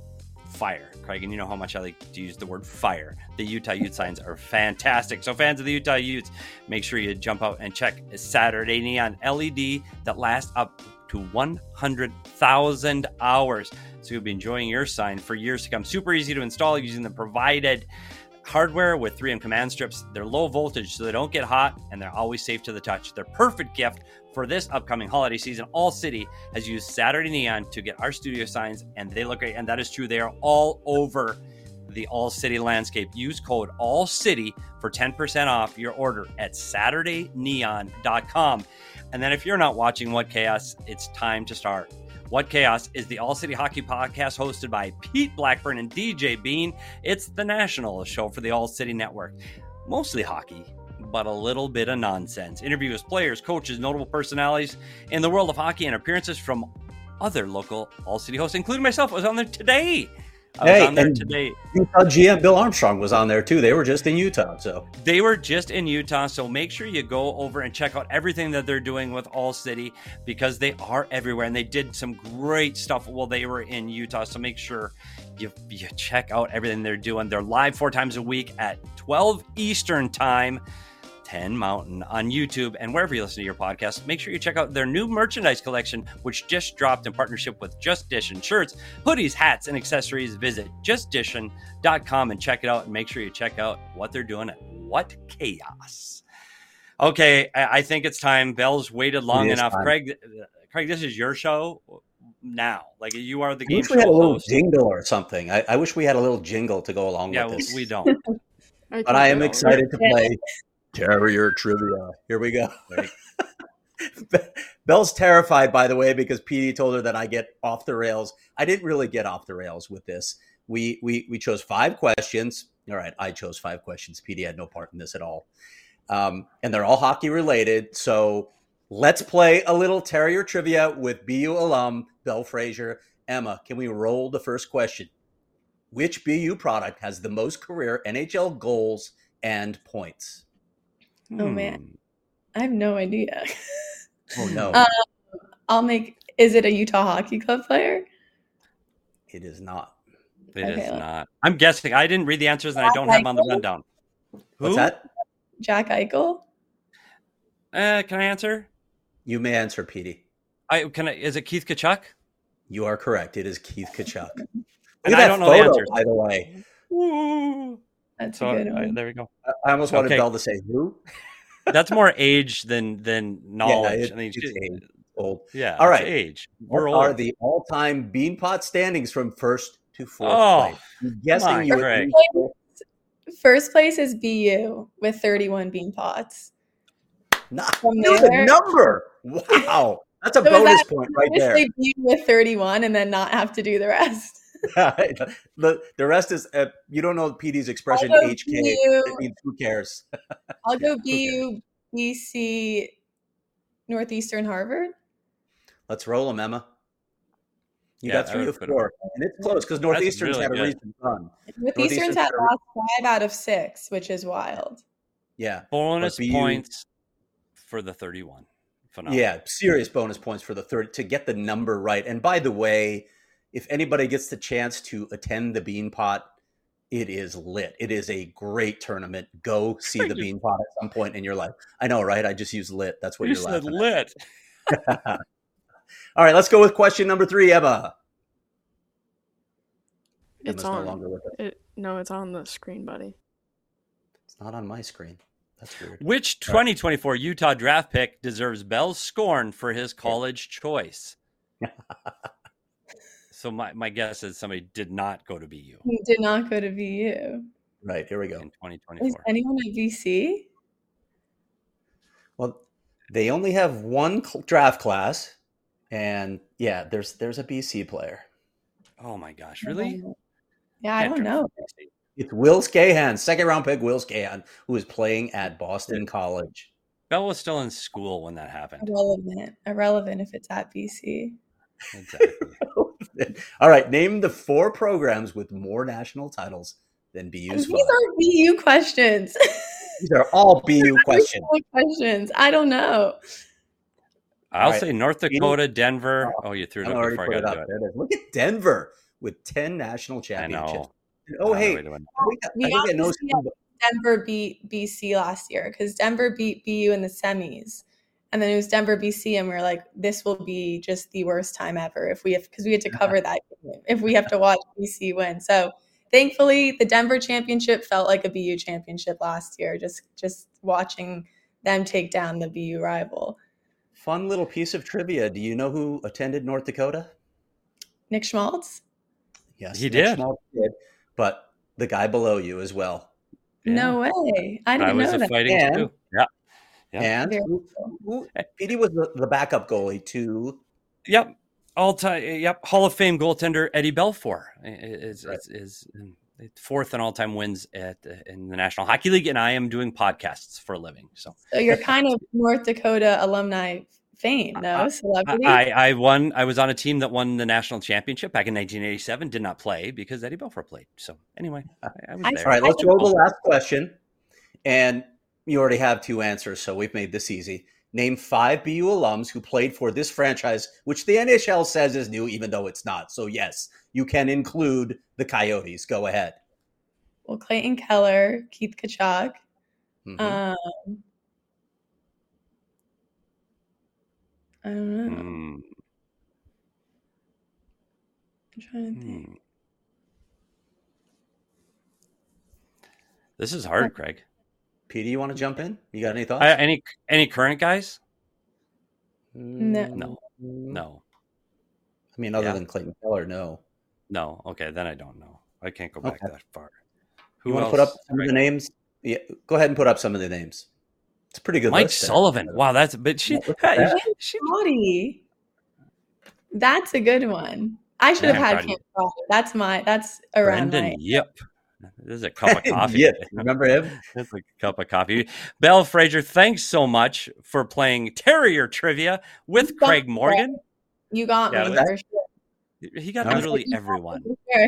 Fire, Craig, and you know how much I like to use the word fire. The Utah Ute signs are fantastic. So fans of the Utah Utes, make sure you jump out and check Saturday Neon L E D that lasts up to one hundred thousand hours. So you'll be enjoying your sign for years to come. Super easy to install using the provided hardware with three M command strips. They're low voltage, so they don't get hot, and they're always safe to the touch. They're perfect gift for this upcoming holiday season. All City has used Saturday Neon to get our studio signs, and they look great. And that is true. They are all over the All City landscape. Use code All City for ten percent off your order at saturday neon dot com. And then if you're not watching What Chaos, it's time to start. What Chaos is the All City Hockey podcast hosted by Pete Blackburn and D J Bean. It's the national show for the All City Network. Mostly hockey, but a little bit of nonsense. Interviews, players, coaches, notable personalities in the world of hockey, and appearances from other local All City hosts, including myself. I was on there today. I was hey, on there and today. Utah G M Bill Armstrong was on there too. They were just in Utah, so They were just in Utah, so make sure you go over and check out everything that they're doing with All City, because they are everywhere, and they did some great stuff while they were in Utah. So make sure you, you check out everything they're doing. They're live four times a week at twelve Eastern time, ten Mountain on YouTube, and wherever you listen to your podcast. Make sure you check out their new merchandise collection, which just dropped in partnership with Just Dishin' shirts, hoodies, hats, and accessories. Visit just dishin dot com and check it out, and make sure you check out what they're doing at What Chaos. Okay, I, I think it's time. Bell's waited long enough. Time. Craig, Craig, this is your show now. Like, you are the I game wish show we had a little host. jingle or something. I, I wish we had a little jingle to go along yeah, with this. we don't. But I am excited to play Terrier Trivia. Here we go. Belle's terrified, by the way, because Petey told her that I get off the rails. I didn't really get off the rails with this. We we we chose five questions. All right, I chose five questions. Petey had no part in this at all. Um, and they're all hockey related. So let's play a little Terrier Trivia with B U alum Belle Fraser. Emma, can we roll the first question? Which B U product has the most career N H L goals and points? Oh, man. I have no idea. Oh, no. Um, I'll make, is it a Utah Hockey Club player? It is not. It Okay, is let's- not. I'm guessing. I didn't read the answers, and I don't have them on the rundown. What's Who? that? Jack Eichel? Uh, can I answer? You may answer, Petey. I can. I, is it Keith Kachuk? You are correct. It is Keith Kachuk. Look And at I that don't know the photo, answers. by the way. Ooh. That's So a good uh, one. there we go. I almost wanted Okay. Belle to say who. That's more age than than knowledge. Yeah, it- I mean, it's she- age. Old. yeah. All it's right. age. What We're are old. the all-time Beanpot standings from first to fourth Oh, place? I'm guessing my you. Greg. First place is B U with thirty-one bean pots. Not From know the there- number. Wow, that's a So is bonus that- point right Just there. say B U with thirty-one and then not have to do the rest. the the rest is uh, you don't know P D's expression I'll go H K. B U. It means who cares? I'll go Who B U, B C, Northeastern, Harvard. Let's roll them, Emma. You Yeah, got I three would of put 'em- four, and it's close because Northeastern's really had a good. recent run. Northeastern's Northeastern's had had a- lost five out of six, which is wild. Yeah, bonus But B U points for the thirty-one. Phenomenal. yeah, serious bonus points for the third to get the number right. And by the way, if anybody gets the chance to attend the Beanpot, it is lit. It is a great tournament. Go see the Beanpot at some point in your life. I know, right? I just used lit. That's what You you're said laughing lit. at. All right, let's go with question number three, Emma. It's Emma's on. no longer with us. It, no, it's on the screen, buddy. It's not on my screen. That's weird. Which twenty twenty-four Utah draft pick deserves Bell's scorn for his college choice? So my, my guess is somebody did not go to B U. He did not go to B U. Right, here we go. in twenty Is twenty-four. anyone at B C? Well, they only have one cl- draft class, and yeah, there's there's a B C player. Oh my gosh, really? Yeah, I Can't don't draft know. for B C. It's Will Scahan, second round pick Will Scahan, who is playing at Boston College. Bell was still in school when that happened. Irrelevant. Irrelevant if it's at B C. Exactly. All right, name the four programs with more national titles than B U's These five. are B U questions. These are all B U questions. questions. I don't know. I'll right. say North Dakota, Denver. Oh, you threw it I'm up already before put I it got up. to do it. There it is. Look at Denver with ten national I championships. know. Oh, Another hey, way to win. I think, We I think I know obviously some- Denver beat B C last year because Denver beat B U in the semis. And then it was Denver B C, and we were like, this will be just the worst time ever if we have, because we had to cover that game, if we have to watch B C win. So thankfully, the Denver championship felt like a B U championship last year, just just watching them take down the B U rival. Fun little piece of trivia. Do you know who attended North Dakota? Nick Schmaltz? Yes, He Nick did. Schmaltz did, but the guy below you as well. Yeah. No way. I didn't I was know a that. fighting And- too. Yeah. Yeah. And Very who, cool. who, P D was the, the backup goalie to Yep. All time. Yep. Hall of Fame goaltender Eddie Belfour is Right. is, is fourth in all time wins at in the National Hockey League, and I am doing podcasts for a living. So So you're kind of North Dakota alumni fame, no? I- Celebrity? I, I won. I was on a team that won the national championship back in nineteen eighty-seven. Did not play because Eddie Belfour played. So anyway, I, I was I- there. All right, let's I- roll the last question. And you already have two answers, so we've made this easy. Name five B U alums who played for this franchise, which the N H L says is new, even though it's not. So yes, you can include the Coyotes. Go ahead. Well, Clayton Keller, Keith Kachuk. Mhm. Um, I don't know. Hmm, I'm trying to think. hmm. This is hard, Craig. P D, you want to jump in? You got any thoughts? I, any any current guys? No. No. No. I mean, other Yeah. than Clayton Keller, no. No. Okay, then I don't know. I can't go back Okay. that far. You Who want to else? put up some Craig? of the names? Yeah, go ahead and put up some of the names. It's a pretty good Mike list there. Sullivan. Wow, that's but she, Yeah, look at that. she Scotty. That's a good one. I should Yeah, have had Scotty. Cam Scotty. That's my, that's around Brendan my, Yip. This is a cup of coffee. Yeah, remember him? It's a cup of coffee. Belle Fraser, thanks so much for playing Terrier Trivia with You got Craig me. Morgan. you got Yeah, me that- for sure. He got All right. literally everyone. For sure.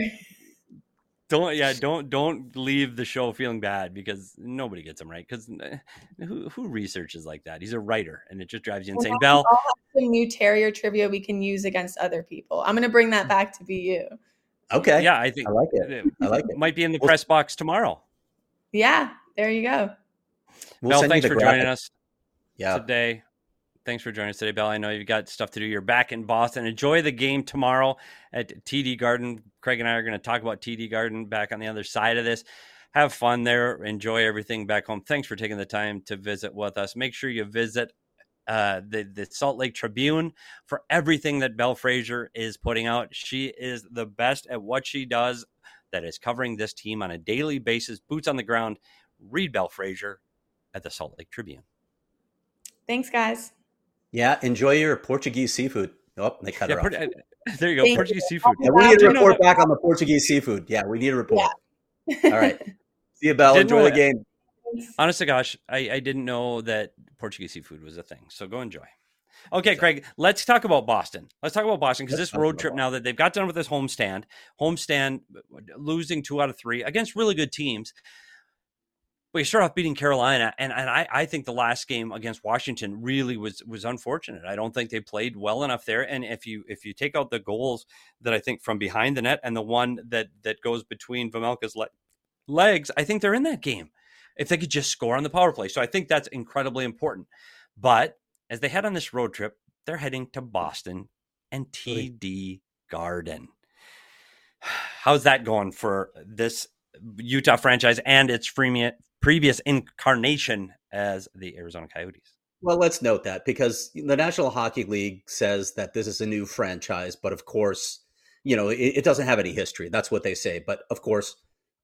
Don't yeah, don't don't leave the show feeling bad because nobody gets him right. Because who who researches like that? He's a writer, and it just drives you Well, insane. now Belle, we all have some new Terrier trivia we can use against other people. I'm going to bring that back to B U. Okay. yeah, I think I like it. I like it. might be in the Well- press box tomorrow. Yeah, there you go. We'll Belle, send you thanks the for joining graphic. us Yeah. today. Thanks for joining us today, Belle. I know you've got stuff to do. You're back in Boston. Enjoy the game tomorrow at T D Garden. Craig and I are going to talk about T D Garden back on the other side of this. Have fun there. Enjoy everything back home. Thanks for taking the time to visit with us. Make sure you visit uh, the, the Salt Lake Tribune for everything that Belle Fraser is putting out. She is the best at what she does, that is covering this team on a daily basis, boots on the ground. Read Belle Fraser at the Salt Lake Tribune. Thanks, guys. Yeah. Enjoy your Portuguese seafood. Oh, they cut Yeah, her off. Port- there you go. Thank you. Portuguese seafood. Yeah, we need Do a you know report that- back on the Portuguese seafood. Yeah, we need a report. All right. See you, Belle. Didn't Enjoy know the that. game. Honest to gosh, I, I didn't know that Portuguese seafood was a thing. So go enjoy. Okay, Craig, let's talk about Boston. Let's talk about Boston because Let's this talk road about trip, now that they've got done with this homestand, homestand losing two out of three against really good teams. But you start off beating Carolina, and, and I, I think the last game against Washington really was was unfortunate. I don't think they played well enough there. And if you if you take out the goals that I think from behind the net and the one that that goes between Vejmelka's le- legs, I think they're in that game if they could just score on the power play. So I think that's incredibly important. But as they head on this road trip, they're heading to Boston and T D Garden. How's that going for this Utah franchise and its freemium, previous incarnation as the Arizona Coyotes? Well, let's note that because the National Hockey League says that this is a new franchise, but of course, you know, it, it doesn't have any history. That's what they say. But of course,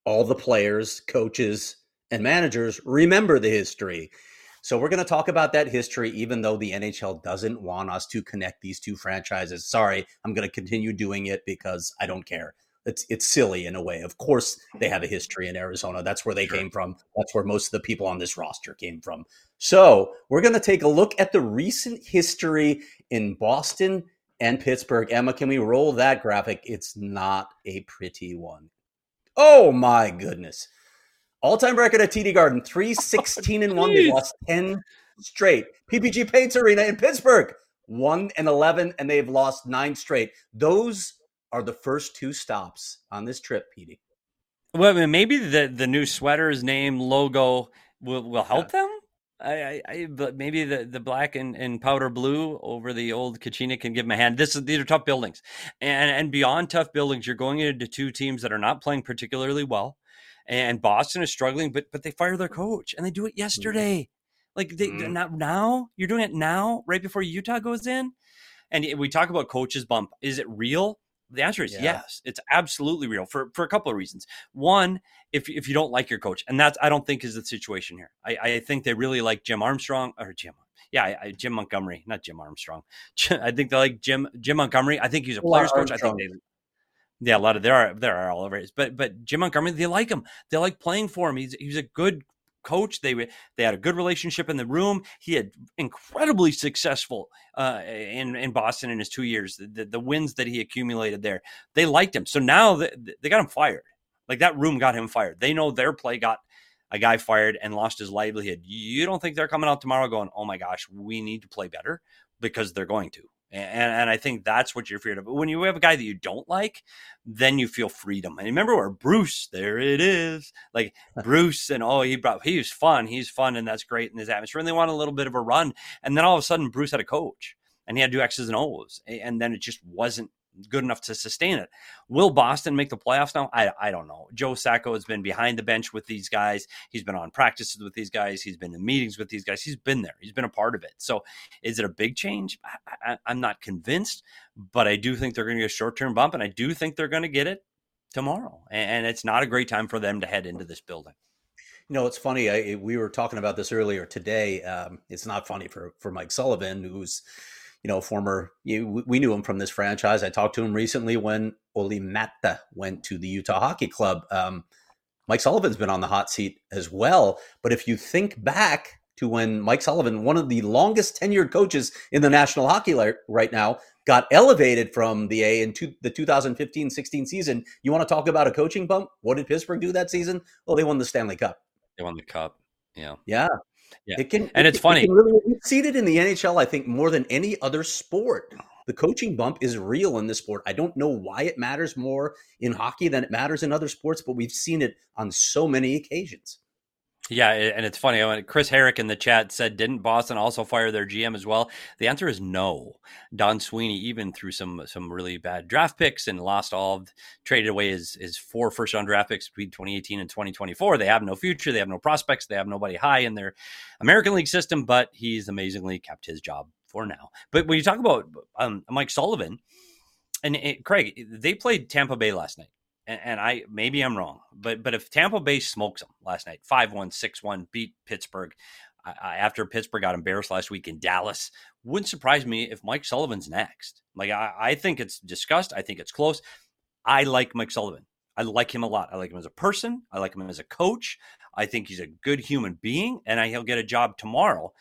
all the players, coaches, and managers remember the history. So we're going to talk about that history, even though the N H L doesn't want us to connect these two franchises. Sorry, I'm going to continue doing it because I don't care. It's it's silly in a way. Of course, they have a history in Arizona. That's where they sure. came from. That's where most of the people on this roster came from. So we're going to take a look at the recent history in Boston and Pittsburgh. Emma, can we roll that graphic? It's not a pretty one. Oh, my goodness. All-time record at T D Garden, three sixteen and one. They lost ten straight. P P G Paints Arena in Pittsburgh, one and eleven, and they've lost nine straight. Those are the first two stops on this trip, Petey. Well, I mean, maybe the, the new sweater's name, logo will, will help yeah. them. I, I, I, but maybe the, the black and, and powder blue over the old Kachina can give them a hand. This is, these are tough buildings. And, and beyond tough buildings, you're going into two teams that are not playing particularly well. And Boston is struggling, but but they fire their coach, and they do it yesterday. Like, they mm-hmm. not now? You're doing it now, right before Utah goes in? And we talk about coaches bump. Is it real? The answer is yeah. yes. It's absolutely real for, for a couple of reasons. One, if if you don't like your coach, and that's I don't think is the situation here. I, I think they really like Jim Armstrong or Jim. Yeah, I, I, Jim Montgomery, not Jim Armstrong. I think they like Jim Jim Montgomery. I think he's a player's coach. I think they. Yeah, a lot of there are there are all over it. But but Jim Montgomery, they like him. They like playing for him. He's he's a good coach. They they had a good relationship in the room. He had incredibly successful uh, in in Boston in his two years. The, the wins that he accumulated there, they liked him. So now they, they got him fired. Like, that room got him fired. They know their play got a guy fired and lost his livelihood. You don't think they're coming out tomorrow going, oh my gosh, we need to play better? Because they're going to. And, and I think that's what you're feared of. But when you have a guy that you don't like, then you feel freedom. And remember where Bruce, there it is. Like Bruce and, oh, he brought, he was fun. He's fun, and that's great in his atmosphere. And they want a little bit of a run. And then all of a sudden, Bruce had a coach, and he had to do X's and O's. And then it just wasn't good enough to sustain it. Will Boston make the playoffs now? I I don't know. Joe Sacco has been behind the bench with these guys. He's been on practices with these guys. He's been in meetings with these guys. He's been there. He's been a part of it. So is it a big change? I, I, I'm not convinced, but I do think they're going to get a short-term bump, and I do think they're going to get it tomorrow. And it's not a great time for them to head into this building. You know, it's funny. I, we were talking about this earlier today. Um, it's not funny for, for Mike Sullivan, who's, you know, former, you, we knew him from this franchise. I talked to him recently when Olli Maatta went to the Utah Hockey Club. Um, Mike Sullivan's been on the hot seat as well. But if you think back to when Mike Sullivan, one of the longest tenured coaches in the National Hockey League right now, got elevated from the A in two, the two thousand fifteen sixteen season. You want to talk about a coaching bump? What did Pittsburgh do that season? Well, they won the Stanley Cup. They won the Cup. Yeah. Yeah. Yeah, it can, and it, it's funny. It can really, we've seen it in the N H L, I think, more than any other sport. The coaching bump is real in this sport. I don't know why it matters more in hockey than it matters in other sports, but we've seen it on so many occasions. Yeah, and it's funny. Chris Herrick in the chat said, didn't Boston also fire their G M as well? The answer is no. Don Sweeney, even through some some really bad draft picks and lost all, of, traded away his, his four first-round draft picks between twenty eighteen and twenty twenty-four. They have no future. They have no prospects. They have nobody high in their American League system, but he's amazingly kept his job for now. But when you talk about um, Mike Sullivan, and it, Craig, they played Tampa Bay last night. And I maybe I'm wrong, but but if Tampa Bay smokes them last night, five one, six one, beat Pittsburgh I, after Pittsburgh got embarrassed last week in Dallas, wouldn't surprise me if Mike Sullivan's next. Like, I, I think it's discussed. I think it's close. I like Mike Sullivan. I like him a lot. I like him as a person. I like him as a coach. I think he's a good human being, and I, he'll get a job tomorrow.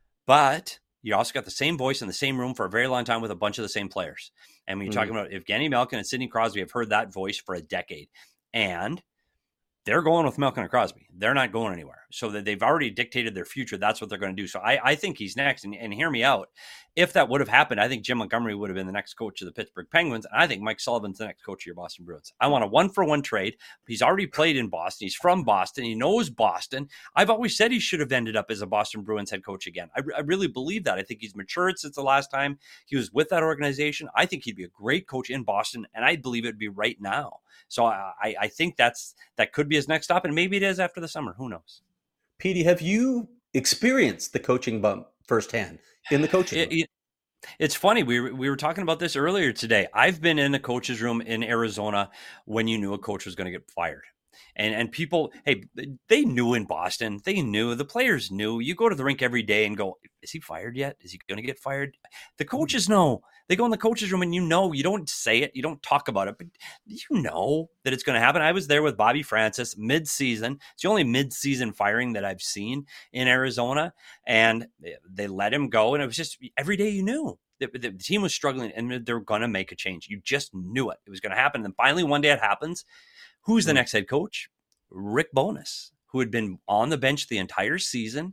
But you also got the same voice in the same room for a very long time with a bunch of the same players. And when you're mm-hmm. talking about Evgeny Malkin and Sidney Crosby, I've heard that voice for a decade. And they're going with Malkin and Crosby. They're not going anywhere. So that they've already dictated their future. That's what they're going to do. So I, I think he's next. And, and hear me out. If that would have happened, I think Jim Montgomery would have been the next coach of the Pittsburgh Penguins. And I think Mike Sullivan's the next coach of your Boston Bruins. I want a one-for-one trade. He's already played in Boston. He's from Boston. He knows Boston. I've always said he should have ended up as a Boston Bruins head coach again. I, I really believe that. I think he's matured since the last time he was with that organization. I think he'd be a great coach in Boston, and I believe it would be right now. So I, I think that's that could be his next stop, and maybe it is after the summer. Who knows? Petey, have you experienced the coaching bump firsthand in the coaching room? It, it, it's funny. We were, we were talking about this earlier today. I've been in a coach's room in Arizona when you knew a coach was going to get fired. And and people, hey, they knew in Boston, they knew, the players knew. You go to the rink every day and go, is he fired yet? Is he going to get fired? The coaches know. They go in the coaches room and you know, you don't say it, you don't talk about it, but you know that it's going to happen. I was there with Bobby Francis mid-season. It's the only mid-season firing that I've seen in Arizona, and they let him go. And it was just every day you knew the, the team was struggling and they're going to make a change. You just knew it. It was going to happen. And then finally one day it happens. Who's the mm-hmm. next head coach? Rick Bowness, who had been on the bench the entire season.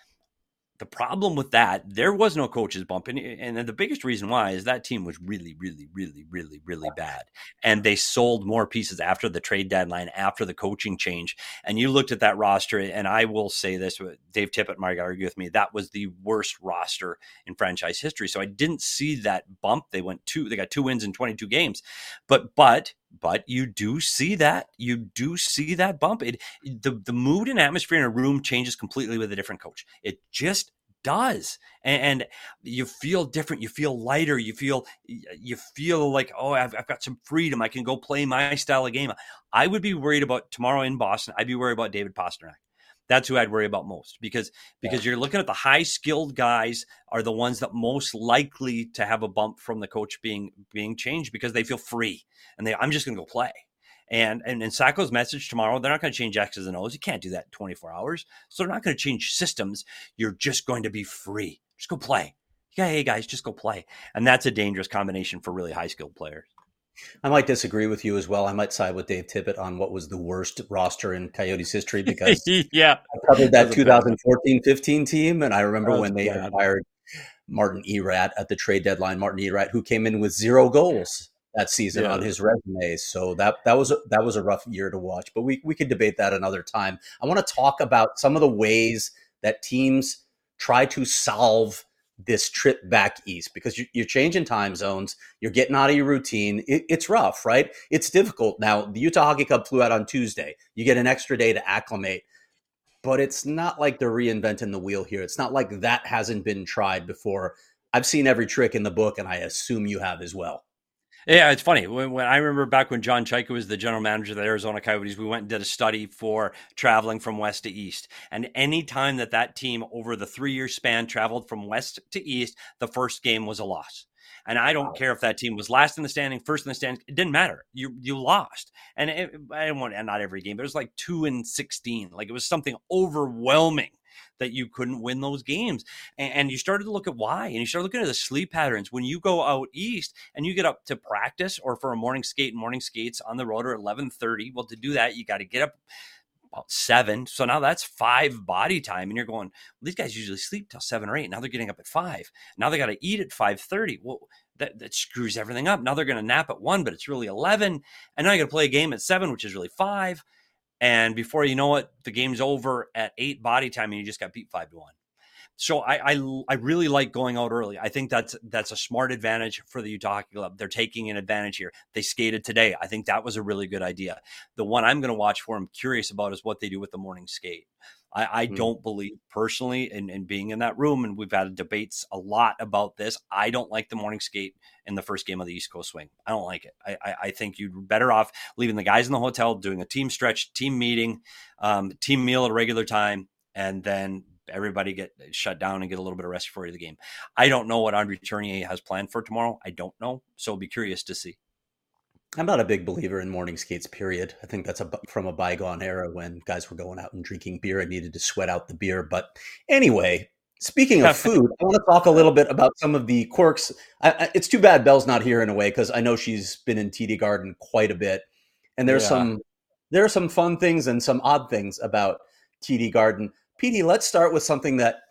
The problem with that, there was no coach's bump. And, and the biggest reason why is that team was really, really, really, really, really bad. And they sold more pieces after the trade deadline, after the coaching change. And you looked at that roster, and I will say this, Dave Tippett might argue with me, that was the worst roster in franchise history. So I didn't see that bump. They went two, they got two wins in twenty-two games. But, but, But you do see that. You do see that bump. It the, the mood and atmosphere in a room changes completely with a different coach. It just does. And, and you feel different. You feel lighter. You feel you feel like, oh, I've, I've got some freedom. I can go play my style of game. I would be worried about tomorrow in Boston. I'd be worried about David Pastrnak. That's who I'd worry about most, because because you're looking at the high skilled guys are the ones that most likely to have a bump from the coach being being changed, because they feel free and they I'm just going to go play. And and in Sacco's message tomorrow, they're not going to change X's and O's. You can't do that in twenty-four hours. So they're not going to change systems. You're just going to be free. Just go play. Yeah, hey guys, just go play. And that's a dangerous combination for really high skilled players. I might disagree with you as well. I might side with Dave Tippett on what was the worst roster in Coyotes history, because yeah, I covered that twenty fourteen fifteen team, and I remember when they bad. acquired Martin Erat at the trade deadline. Martin Erat, who came in with zero goals that season yeah. on his resume, so that that was a, that was a rough year to watch. But we we could debate that another time. I want to talk about some of the ways that teams try to solve this trip back east, because you, you're changing time zones, you're getting out of your routine. It, it's rough, right? It's difficult. Now, the Utah Hockey Club flew out on Tuesday. You get an extra day to acclimate, but it's not like they're reinventing the wheel here. It's not like that hasn't been tried before. I've seen every trick in the book, and I assume you have as well. Yeah, it's funny. When, when I remember back when John Chaika was the general manager of the Arizona Coyotes, we went and did a study for traveling from west to east. And any time that that team over the three-year span traveled from west to east, the first game was a loss. And I don't wow. care if that team was last in the standing, first in the standing. It didn't matter. You you lost. And it, I didn't want, not every game, but it was like two and sixteen. Like it was something overwhelming that you couldn't win those games. And, and you started to look at why, and you start looking at the sleep patterns. When you go out east and you get up to practice or for a morning skate, morning skates on the road are eleven thirty. Well, to do that, you got to get up about seven. So now that's five body time. And you're going, well, these guys usually sleep till seven or eight. Now they're getting up at five. Now they got to eat at five thirty. Well, that, that screws everything up. Now they're going to nap at one, but it's really eleven. And now you got to play a game at seven, which is really five. And before you know it, the game's over at eight body time, and you just got beat five to one. So I, I I really like going out early. I think that's that's a smart advantage for the Utah Hockey Club. They're taking an advantage here. They skated today. I think that was a really good idea. The one I'm going to watch for, I'm curious about, is what they do with the morning skate. I, I mm. don't believe personally in, in being in that room, and we've had debates a lot about this. I don't like the morning skate in the first game of the East Coast Swing. I don't like it. I, I, I think you're better off leaving the guys in the hotel, doing a team stretch, team meeting, um, team meal at a regular time, and then everybody get shut down and get a little bit of rest before the game. I don't know what Andre Tournier has planned for tomorrow. I don't know. So I'll be curious to see. I'm not a big believer in morning skates, period. I think that's a, from a bygone era when guys were going out and drinking beer and needed to sweat out the beer. But anyway, speaking of food, I want to talk a little bit about some of the quirks. I, I, it's too bad Belle's not here in a way, because I know she's been in T D Garden quite a bit. And there's yeah. some there are some fun things and some odd things about T D Garden. Petey, let's start with something that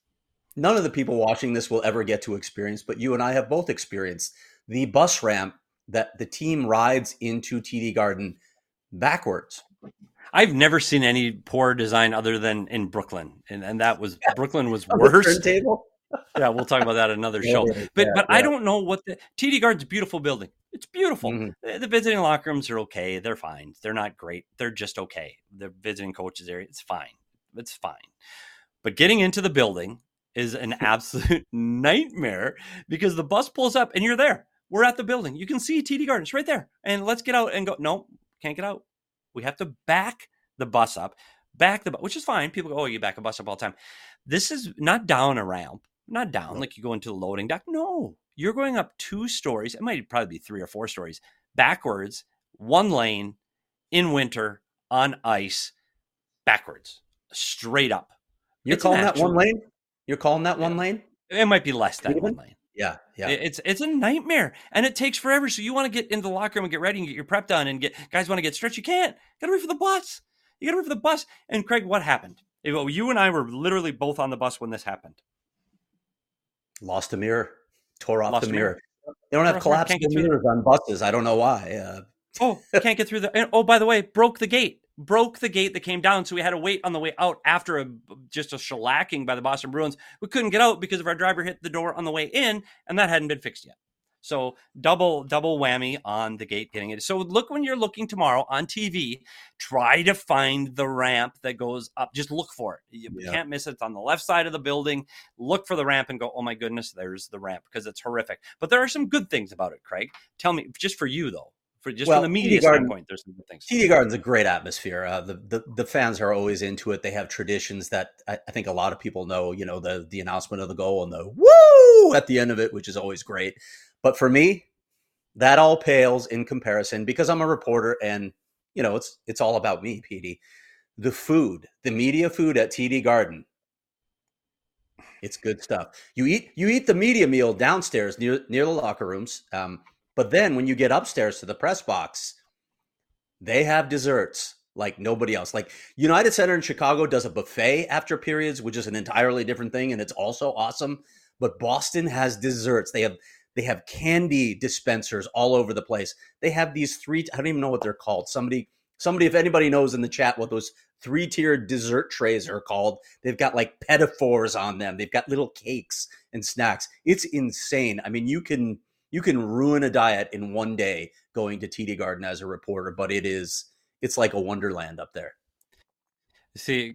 none of the people watching this will ever get to experience, but you and I have both experienced: the bus ramp that the team rides into T D Garden backwards. I've never seen any poor design other than in Brooklyn. And and that was, yeah. Brooklyn was worse. Turntable? Yeah, we'll talk about that in another yeah, show. yeah, But yeah, but yeah. I don't know what the T D Garden's a beautiful building. It's beautiful. Mm-hmm. The, the visiting locker rooms are okay. They're fine. They're not great. They're just okay. The visiting coaches area, it's fine. It's fine. But getting into the building is an absolute nightmare, because the bus pulls up and you're there. We're at the building. You can see T D Garden. It's right there. And let's get out and go. No, can't get out. We have to back the bus up, back the, which is fine. People go, oh, you back a bus up all the time. This is not down a ramp, not down no. like you go into the loading dock. No, you're going up two stories. It might probably be three or four stories backwards, one lane in winter on ice, backwards, straight up. You're it's calling that one lane? You're calling that one yeah. lane? It might be less than Even? one lane. Yeah, yeah. It's it's a nightmare, and it takes forever. So you want to get into the locker room and get ready and get your prep done, and get guys want to get stretched. You can't. Got to wait for the bus. You got to wait for the bus. And Craig, what happened? You and I were literally both on the bus when this happened. Lost a mirror. Tore off Lost the mirror. mirror. They don't have collapsible mirrors on buses. I don't know why. Uh, oh, can't get through the. And, oh, by the way, broke the gate. Broke the gate that came down, so we had to wait on the way out after a, just a shellacking by the Boston Bruins. We couldn't get out because of our driver hit the door on the way in, and that hadn't been fixed yet. So double double whammy on the gate getting it. So look, when you're looking tomorrow on T V, try to find the ramp that goes up. Just look for it. You yeah. can't miss it. It's on the left side of the building. Look for the ramp and go, oh my goodness, there's the ramp, because it's horrific. But there are some good things about it, Craig. Tell me, just for you though. For just well, from the media standpoint, there's some good things. T D Garden's a great atmosphere. Uh, the, the the fans are always into it. They have traditions that I, I think a lot of people know. You know, the the announcement of the goal and the woo at the end of it, which is always great. But for me, that all pales in comparison, because I'm a reporter, and you know, it's it's all about me, Petey. The food, the media food at T D Garden, it's good stuff. You eat you eat the media meal downstairs near near the locker rooms. Um, But then when you get upstairs to the press box, they have desserts like nobody else. Like United Center in Chicago does a buffet after periods, which is an entirely different thing, and it's also awesome. But Boston has desserts. They have they have candy dispensers all over the place. They have these three, I don't even know what they're called. Somebody, somebody, if anybody knows in the chat what those three-tiered dessert trays are called, they've got like pedophores on them. They've got little cakes and snacks. It's insane. I mean, you can You can ruin a diet in one day going to T D Garden as a reporter, but it is, it's like a wonderland up there. See,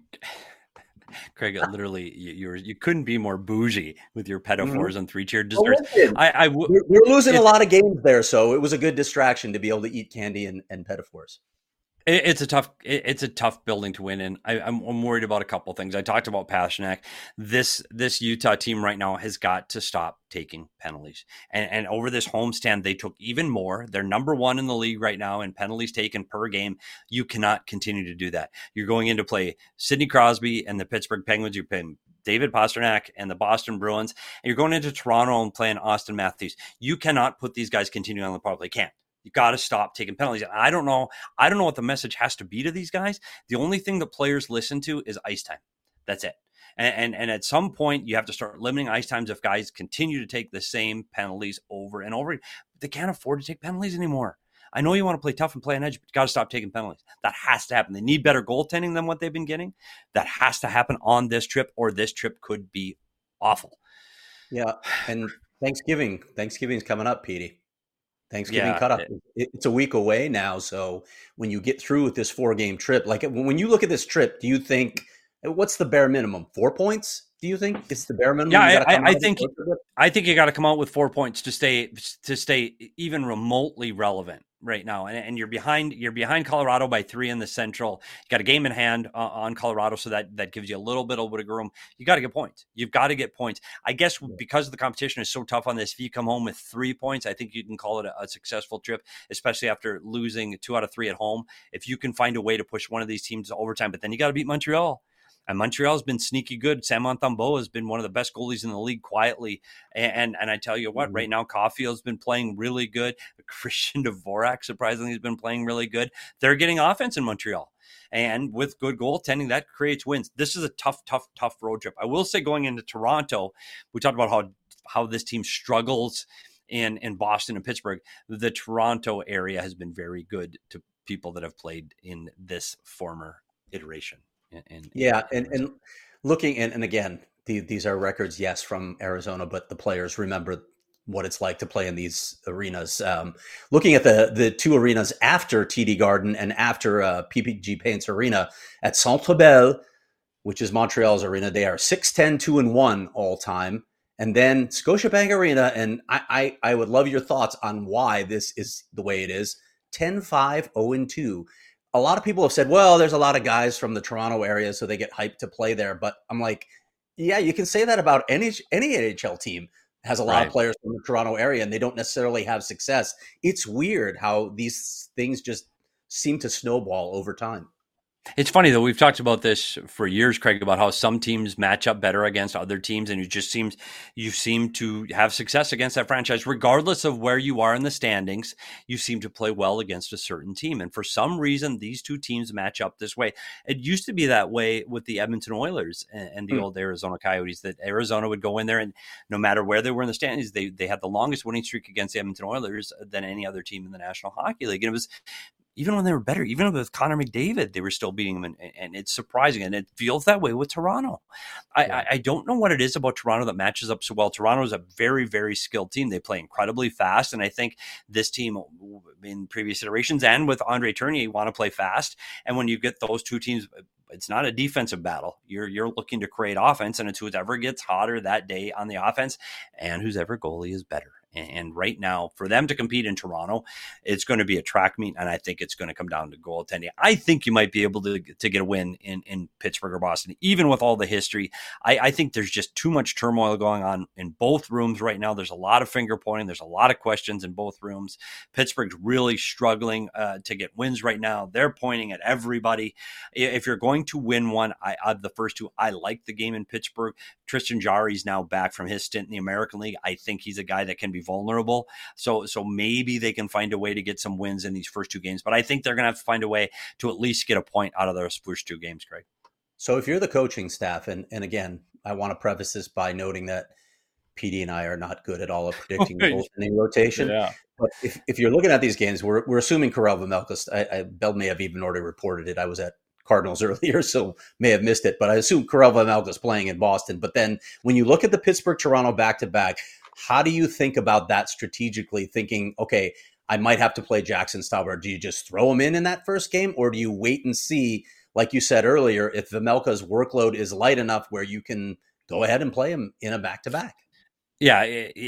Craig, literally, you you're, you couldn't be more bougie with your pedophores mm-hmm. and three-tiered desserts. Well, I, I w- we're, we're losing it, a lot of games there, so it was a good distraction to be able to eat candy and, and pedophores. It's a tough, it's a tough building to win in. I, I'm, I'm worried about a couple of things. I talked about Pastrnak. This, this Utah team right now has got to stop taking penalties. And, and over this homestand, they took even more. They're number one in the league right now in penalties taken per game. You cannot continue to do that. You're going in to play Sidney Crosby and the Pittsburgh Penguins. You're playing David Pastrnak and the Boston Bruins. And you're going into Toronto and playing Austin Matthews. You cannot put these guys continuing on the power play. Can't. You got to stop taking penalties. I don't know. I don't know what the message has to be to these guys. The only thing that players listen to is ice time. That's it. And, and, and at some point, you have to start limiting ice times if guys continue to take the same penalties over and over. They can't afford to take penalties anymore. I know you want to play tough and play on edge, but you got to stop taking penalties. That has to happen. They need better goaltending than what they've been getting. That has to happen on this trip, or this trip could be awful. Yeah, and Thanksgiving. Thanksgiving's coming up, Petey. Thanksgiving yeah, cutoff. It, it's a week away now. So when you get through with this four game trip, like when you look at this trip, do you think, what's the bare minimum? Four points? Do you think it's the bare minimum? Yeah, I, I think I think you got to come out with four points to stay to stay even remotely relevant right now. And, and you're behind you're behind Colorado by three in the Central. You got a game in hand uh, on Colorado, so that that gives you a little bit of wiggle room. You got to get points. You've got to get points. I guess because the competition is so tough on this, if you come home with three points, I think you can call it a, a successful trip, especially after losing two out of three at home. If you can find a way to push one of these teams to overtime, but then you got to beat Montreal. And Montreal's been sneaky good. Sam Montembeault has been one of the best goalies in the league quietly. And and, and I tell you what, mm-hmm. right now, Caulfield's been playing really good. Christian Dvorak, surprisingly, has been playing really good. They're getting offense in Montreal. And with good goaltending, that creates wins. This is a tough, tough, tough road trip. I will say going into Toronto, we talked about how, how this team struggles in, in Boston and Pittsburgh. The Toronto area has been very good to people that have played in this former iteration. In, yeah, in, and, and looking, and, and again, the, these are records, yes, from Arizona, but the players remember what it's like to play in these arenas. Um, looking at the the two arenas after T D Garden and after uh, P P G Paints Arena, at Centre Bell, which is Montreal's arena, they are six ten, two and one all time. And then Scotiabank Arena, and I, I, I would love your thoughts on why this is the way it is, ten five, oh and two. a lot of people have said, well, there's a lot of guys from the Toronto area, so they get hyped to play there. But I'm like, yeah, you can say that about any any N H L team. Has a lot right. of players from the Toronto area, and they don't necessarily have success. It's weird how these things just seem to snowball over time. It's funny, though. We've talked about this for years, Craig, about how some teams match up better against other teams, and it just seems you seem to have success against that franchise. Regardless of where you are in the standings, you seem to play well against a certain team. And for some reason, these two teams match up this way. It used to be that way with the Edmonton Oilers and, and the mm. old Arizona Coyotes, that Arizona would go in there, and no matter where they were in the standings, they, they had the longest winning streak against the Edmonton Oilers than any other team in the National Hockey League. And it was even when they were better, even with Connor McDavid, they were still beating them. And, and it's surprising. And it feels that way with Toronto. I, yeah. I, I don't know what it is about Toronto that matches up so well. Toronto is a very, very skilled team. They play incredibly fast. And I think this team in previous iterations and with Andre Tournier want to play fast. And when you get those two teams, it's not a defensive battle. You're you're looking to create offense, and it's whoever gets hotter that day on the offense and whoever goalie is better. And right now, for them to compete in Toronto, it's going to be a track meet, and I think it's going to come down to goaltending. I think you might be able to, to get a win in, in Pittsburgh or Boston, even with all the history. I, I think there's just too much turmoil going on in both rooms right now. There's a lot of finger pointing. There's a lot of questions in both rooms. Pittsburgh's really struggling uh, to get wins right now. They're pointing at everybody. If you're going to win one, I, of the first two, I like the game in Pittsburgh. Tristan Jarry's now back from his stint in the American League. I think he's a guy that can be vulnerable. So so maybe they can find a way to get some wins in these first two games. But I think they're going to have to find a way to at least get a point out of those first two games, Craig. So if you're the coaching staff, and, and again, I want to preface this by noting that P D and I are not good at all at predicting the goaltending rotation. Yeah. But if, if you're looking at these games, we're we're assuming Karel Vejmelka, I, I, Bell may have even already reported it. I was at Cardinals earlier, so may have missed it. But I assume Karel Vejmelka is playing in Boston. But then when you look at the Pittsburgh-Toronto back-to-back, how do you think about that strategically, thinking, okay, I might have to play Jackson Stauber? Do you just throw him in in that first game, or do you wait and see, like you said earlier, if Vejmelka's workload is light enough where you can go ahead and play him in a back-to-back? Yeah,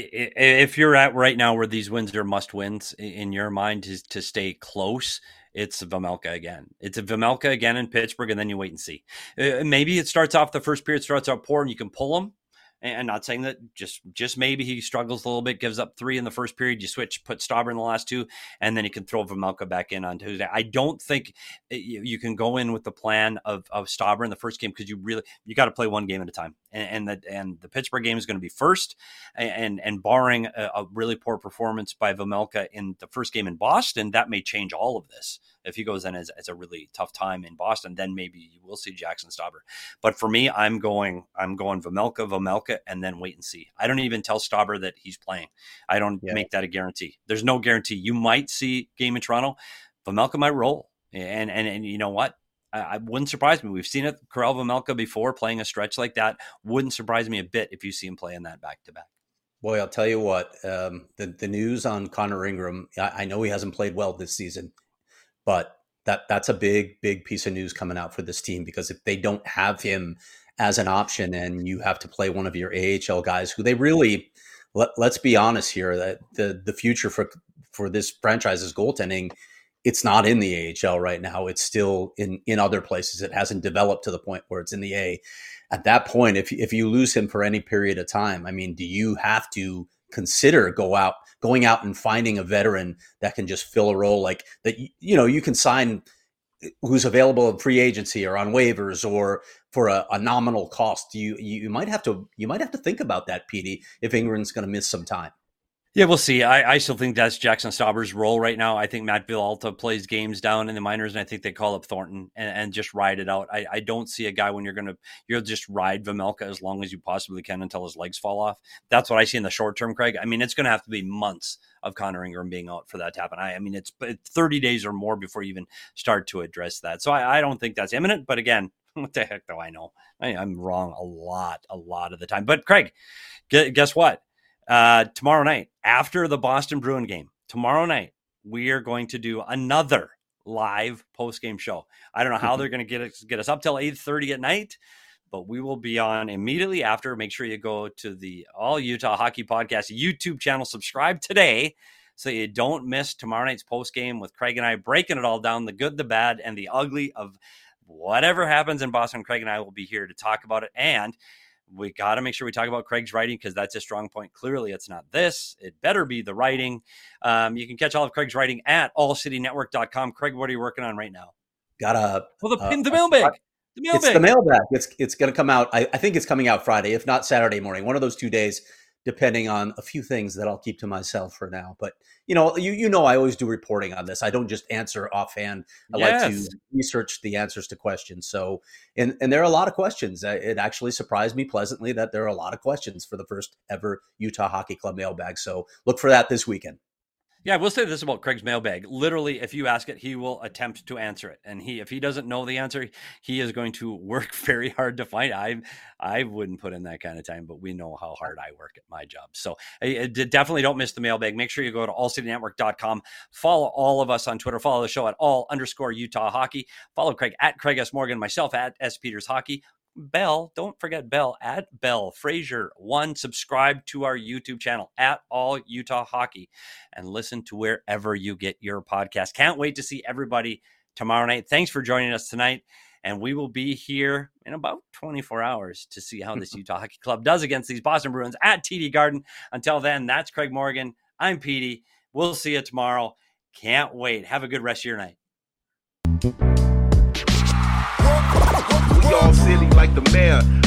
if you're at right now where these wins are must-wins in your mind to, to stay close, it's Vejmelka again. It's a Vejmelka again in Pittsburgh, and then you wait and see. Maybe it starts off, the first period starts out poor, and you can pull him. And not saying that, just just maybe he struggles a little bit, gives up three in the first period. You switch, put Stauber in the last two, and then you can throw Vejmelka back in on Tuesday. I don't think you, you can go in with the plan of of Stauber in the first game, because you really you got to play one game at a time. And, and the and the Pittsburgh game is going to be first, and and barring a, a really poor performance by Vejmelka in the first game in Boston, that may change all of this. If he goes in as, as a really tough time in Boston, then maybe you will see Jackson Stauber. But for me, I'm going I'm going Vejmelka, Vejmelka, and then wait and see. I don't even tell Stauber that he's playing. I don't yeah. make that a guarantee. There's no guarantee. You might see game in Toronto. Vejmelka might roll. And and and you know what? I, I wouldn't surprise me. We've seen it, Karel Vejmelka before, playing a stretch like that. Wouldn't surprise me a bit if you see him play in that back-to-back. Boy, I'll tell you what, um, the, the news on Connor Ingram, I, I know he hasn't played well this season, but that that's a big, big piece of news coming out for this team, because if they don't have him as an option and you have to play one of your A H L guys who they really, let, let's be honest here, that the, the future for, for this franchise's goaltending, it's not in the A H L right now. It's still in, in other places. It hasn't developed to the point where it's in the A. At that point, if if you lose him for any period of time, I mean, do you have to consider go out, going out and finding a veteran that can just fill a role like that? You know, you can sign who's available in free agency or on waivers or for a, a nominal cost. You you might have to you might have to think about that, Petey, if Ingram's going to miss some time. Yeah, we'll see. I, I still think that's Jackson Stauber's role right now. I think Matt Villalta plays games down in the minors, and I think they call up Thornton and, and just ride it out. I, I don't see a guy when you're going to you'll just ride Vejmelka as long as you possibly can until his legs fall off. That's what I see in the short term, Craig. I mean, it's going to have to be months of Connor Ingram being out for that to happen. I, I mean, it's thirty days or more before you even start to address that. So I, I don't think that's imminent. But again, what the heck do I know? I, I'm wrong a lot, a lot of the time. But Craig, guess what? Uh, tomorrow night, after the Boston Bruin game, tomorrow night, we are going to do another live post-game show. I don't know how they're going to get us, get us up till eight thirty at night, but we will be on immediately after. Make sure you go to the All Utah Hockey Podcast YouTube channel, subscribe today so you don't miss tomorrow night's post game with Craig and I breaking it all down, the good, the bad, and the ugly of whatever happens in Boston. Craig and I will be here to talk about it, and we got to make sure we talk about Craig's writing because that's a strong point. Clearly, it's not this. It better be the writing. Um, you can catch all of Craig's writing at all city network dot com. Craig, what are you working on right now? Got a well, the, uh, the mailbag. The mailbag. It's the mailbag. It's it's going to come out. I, I think it's coming out Friday, if not Saturday morning. One of those two days, depending on a few things that I'll keep to myself for now. But you know, you you know, I always do reporting on this. I don't just answer offhand. I yes. like to research the answers to questions. So, and and there are a lot of questions. It actually surprised me pleasantly that there are a lot of questions for the first ever Utah Hockey Club mailbag. So look for that this weekend. Yeah, we'll say this about Craig's mailbag. Literally, if you ask it, he will attempt to answer it. And he, if he doesn't know the answer, he is going to work very hard to find. I I wouldn't put in that kind of time, but we know how hard I work at my job. So I, I definitely don't miss the mailbag. Make sure you go to all city network dot com. Follow all of us on Twitter. Follow the show at all underscore Utah Hockey. Follow Craig at Craig S. Morgan, myself at S. Peters Hockey. Bell, don't forget Bell at Bell Fraser one. Subscribe to our YouTube channel at All Utah Hockey and listen to wherever you get your podcast. Can't wait to see everybody tomorrow night. Thanks for joining us tonight, and we will be here in about twenty-four hours to see how this Utah Hockey Club does against these Boston Bruins at T D Garden. Until then, that's Craig Morgan. I'm Petey. We'll see you tomorrow. Can't wait. Have a good rest of your night. We all silly like the mayor.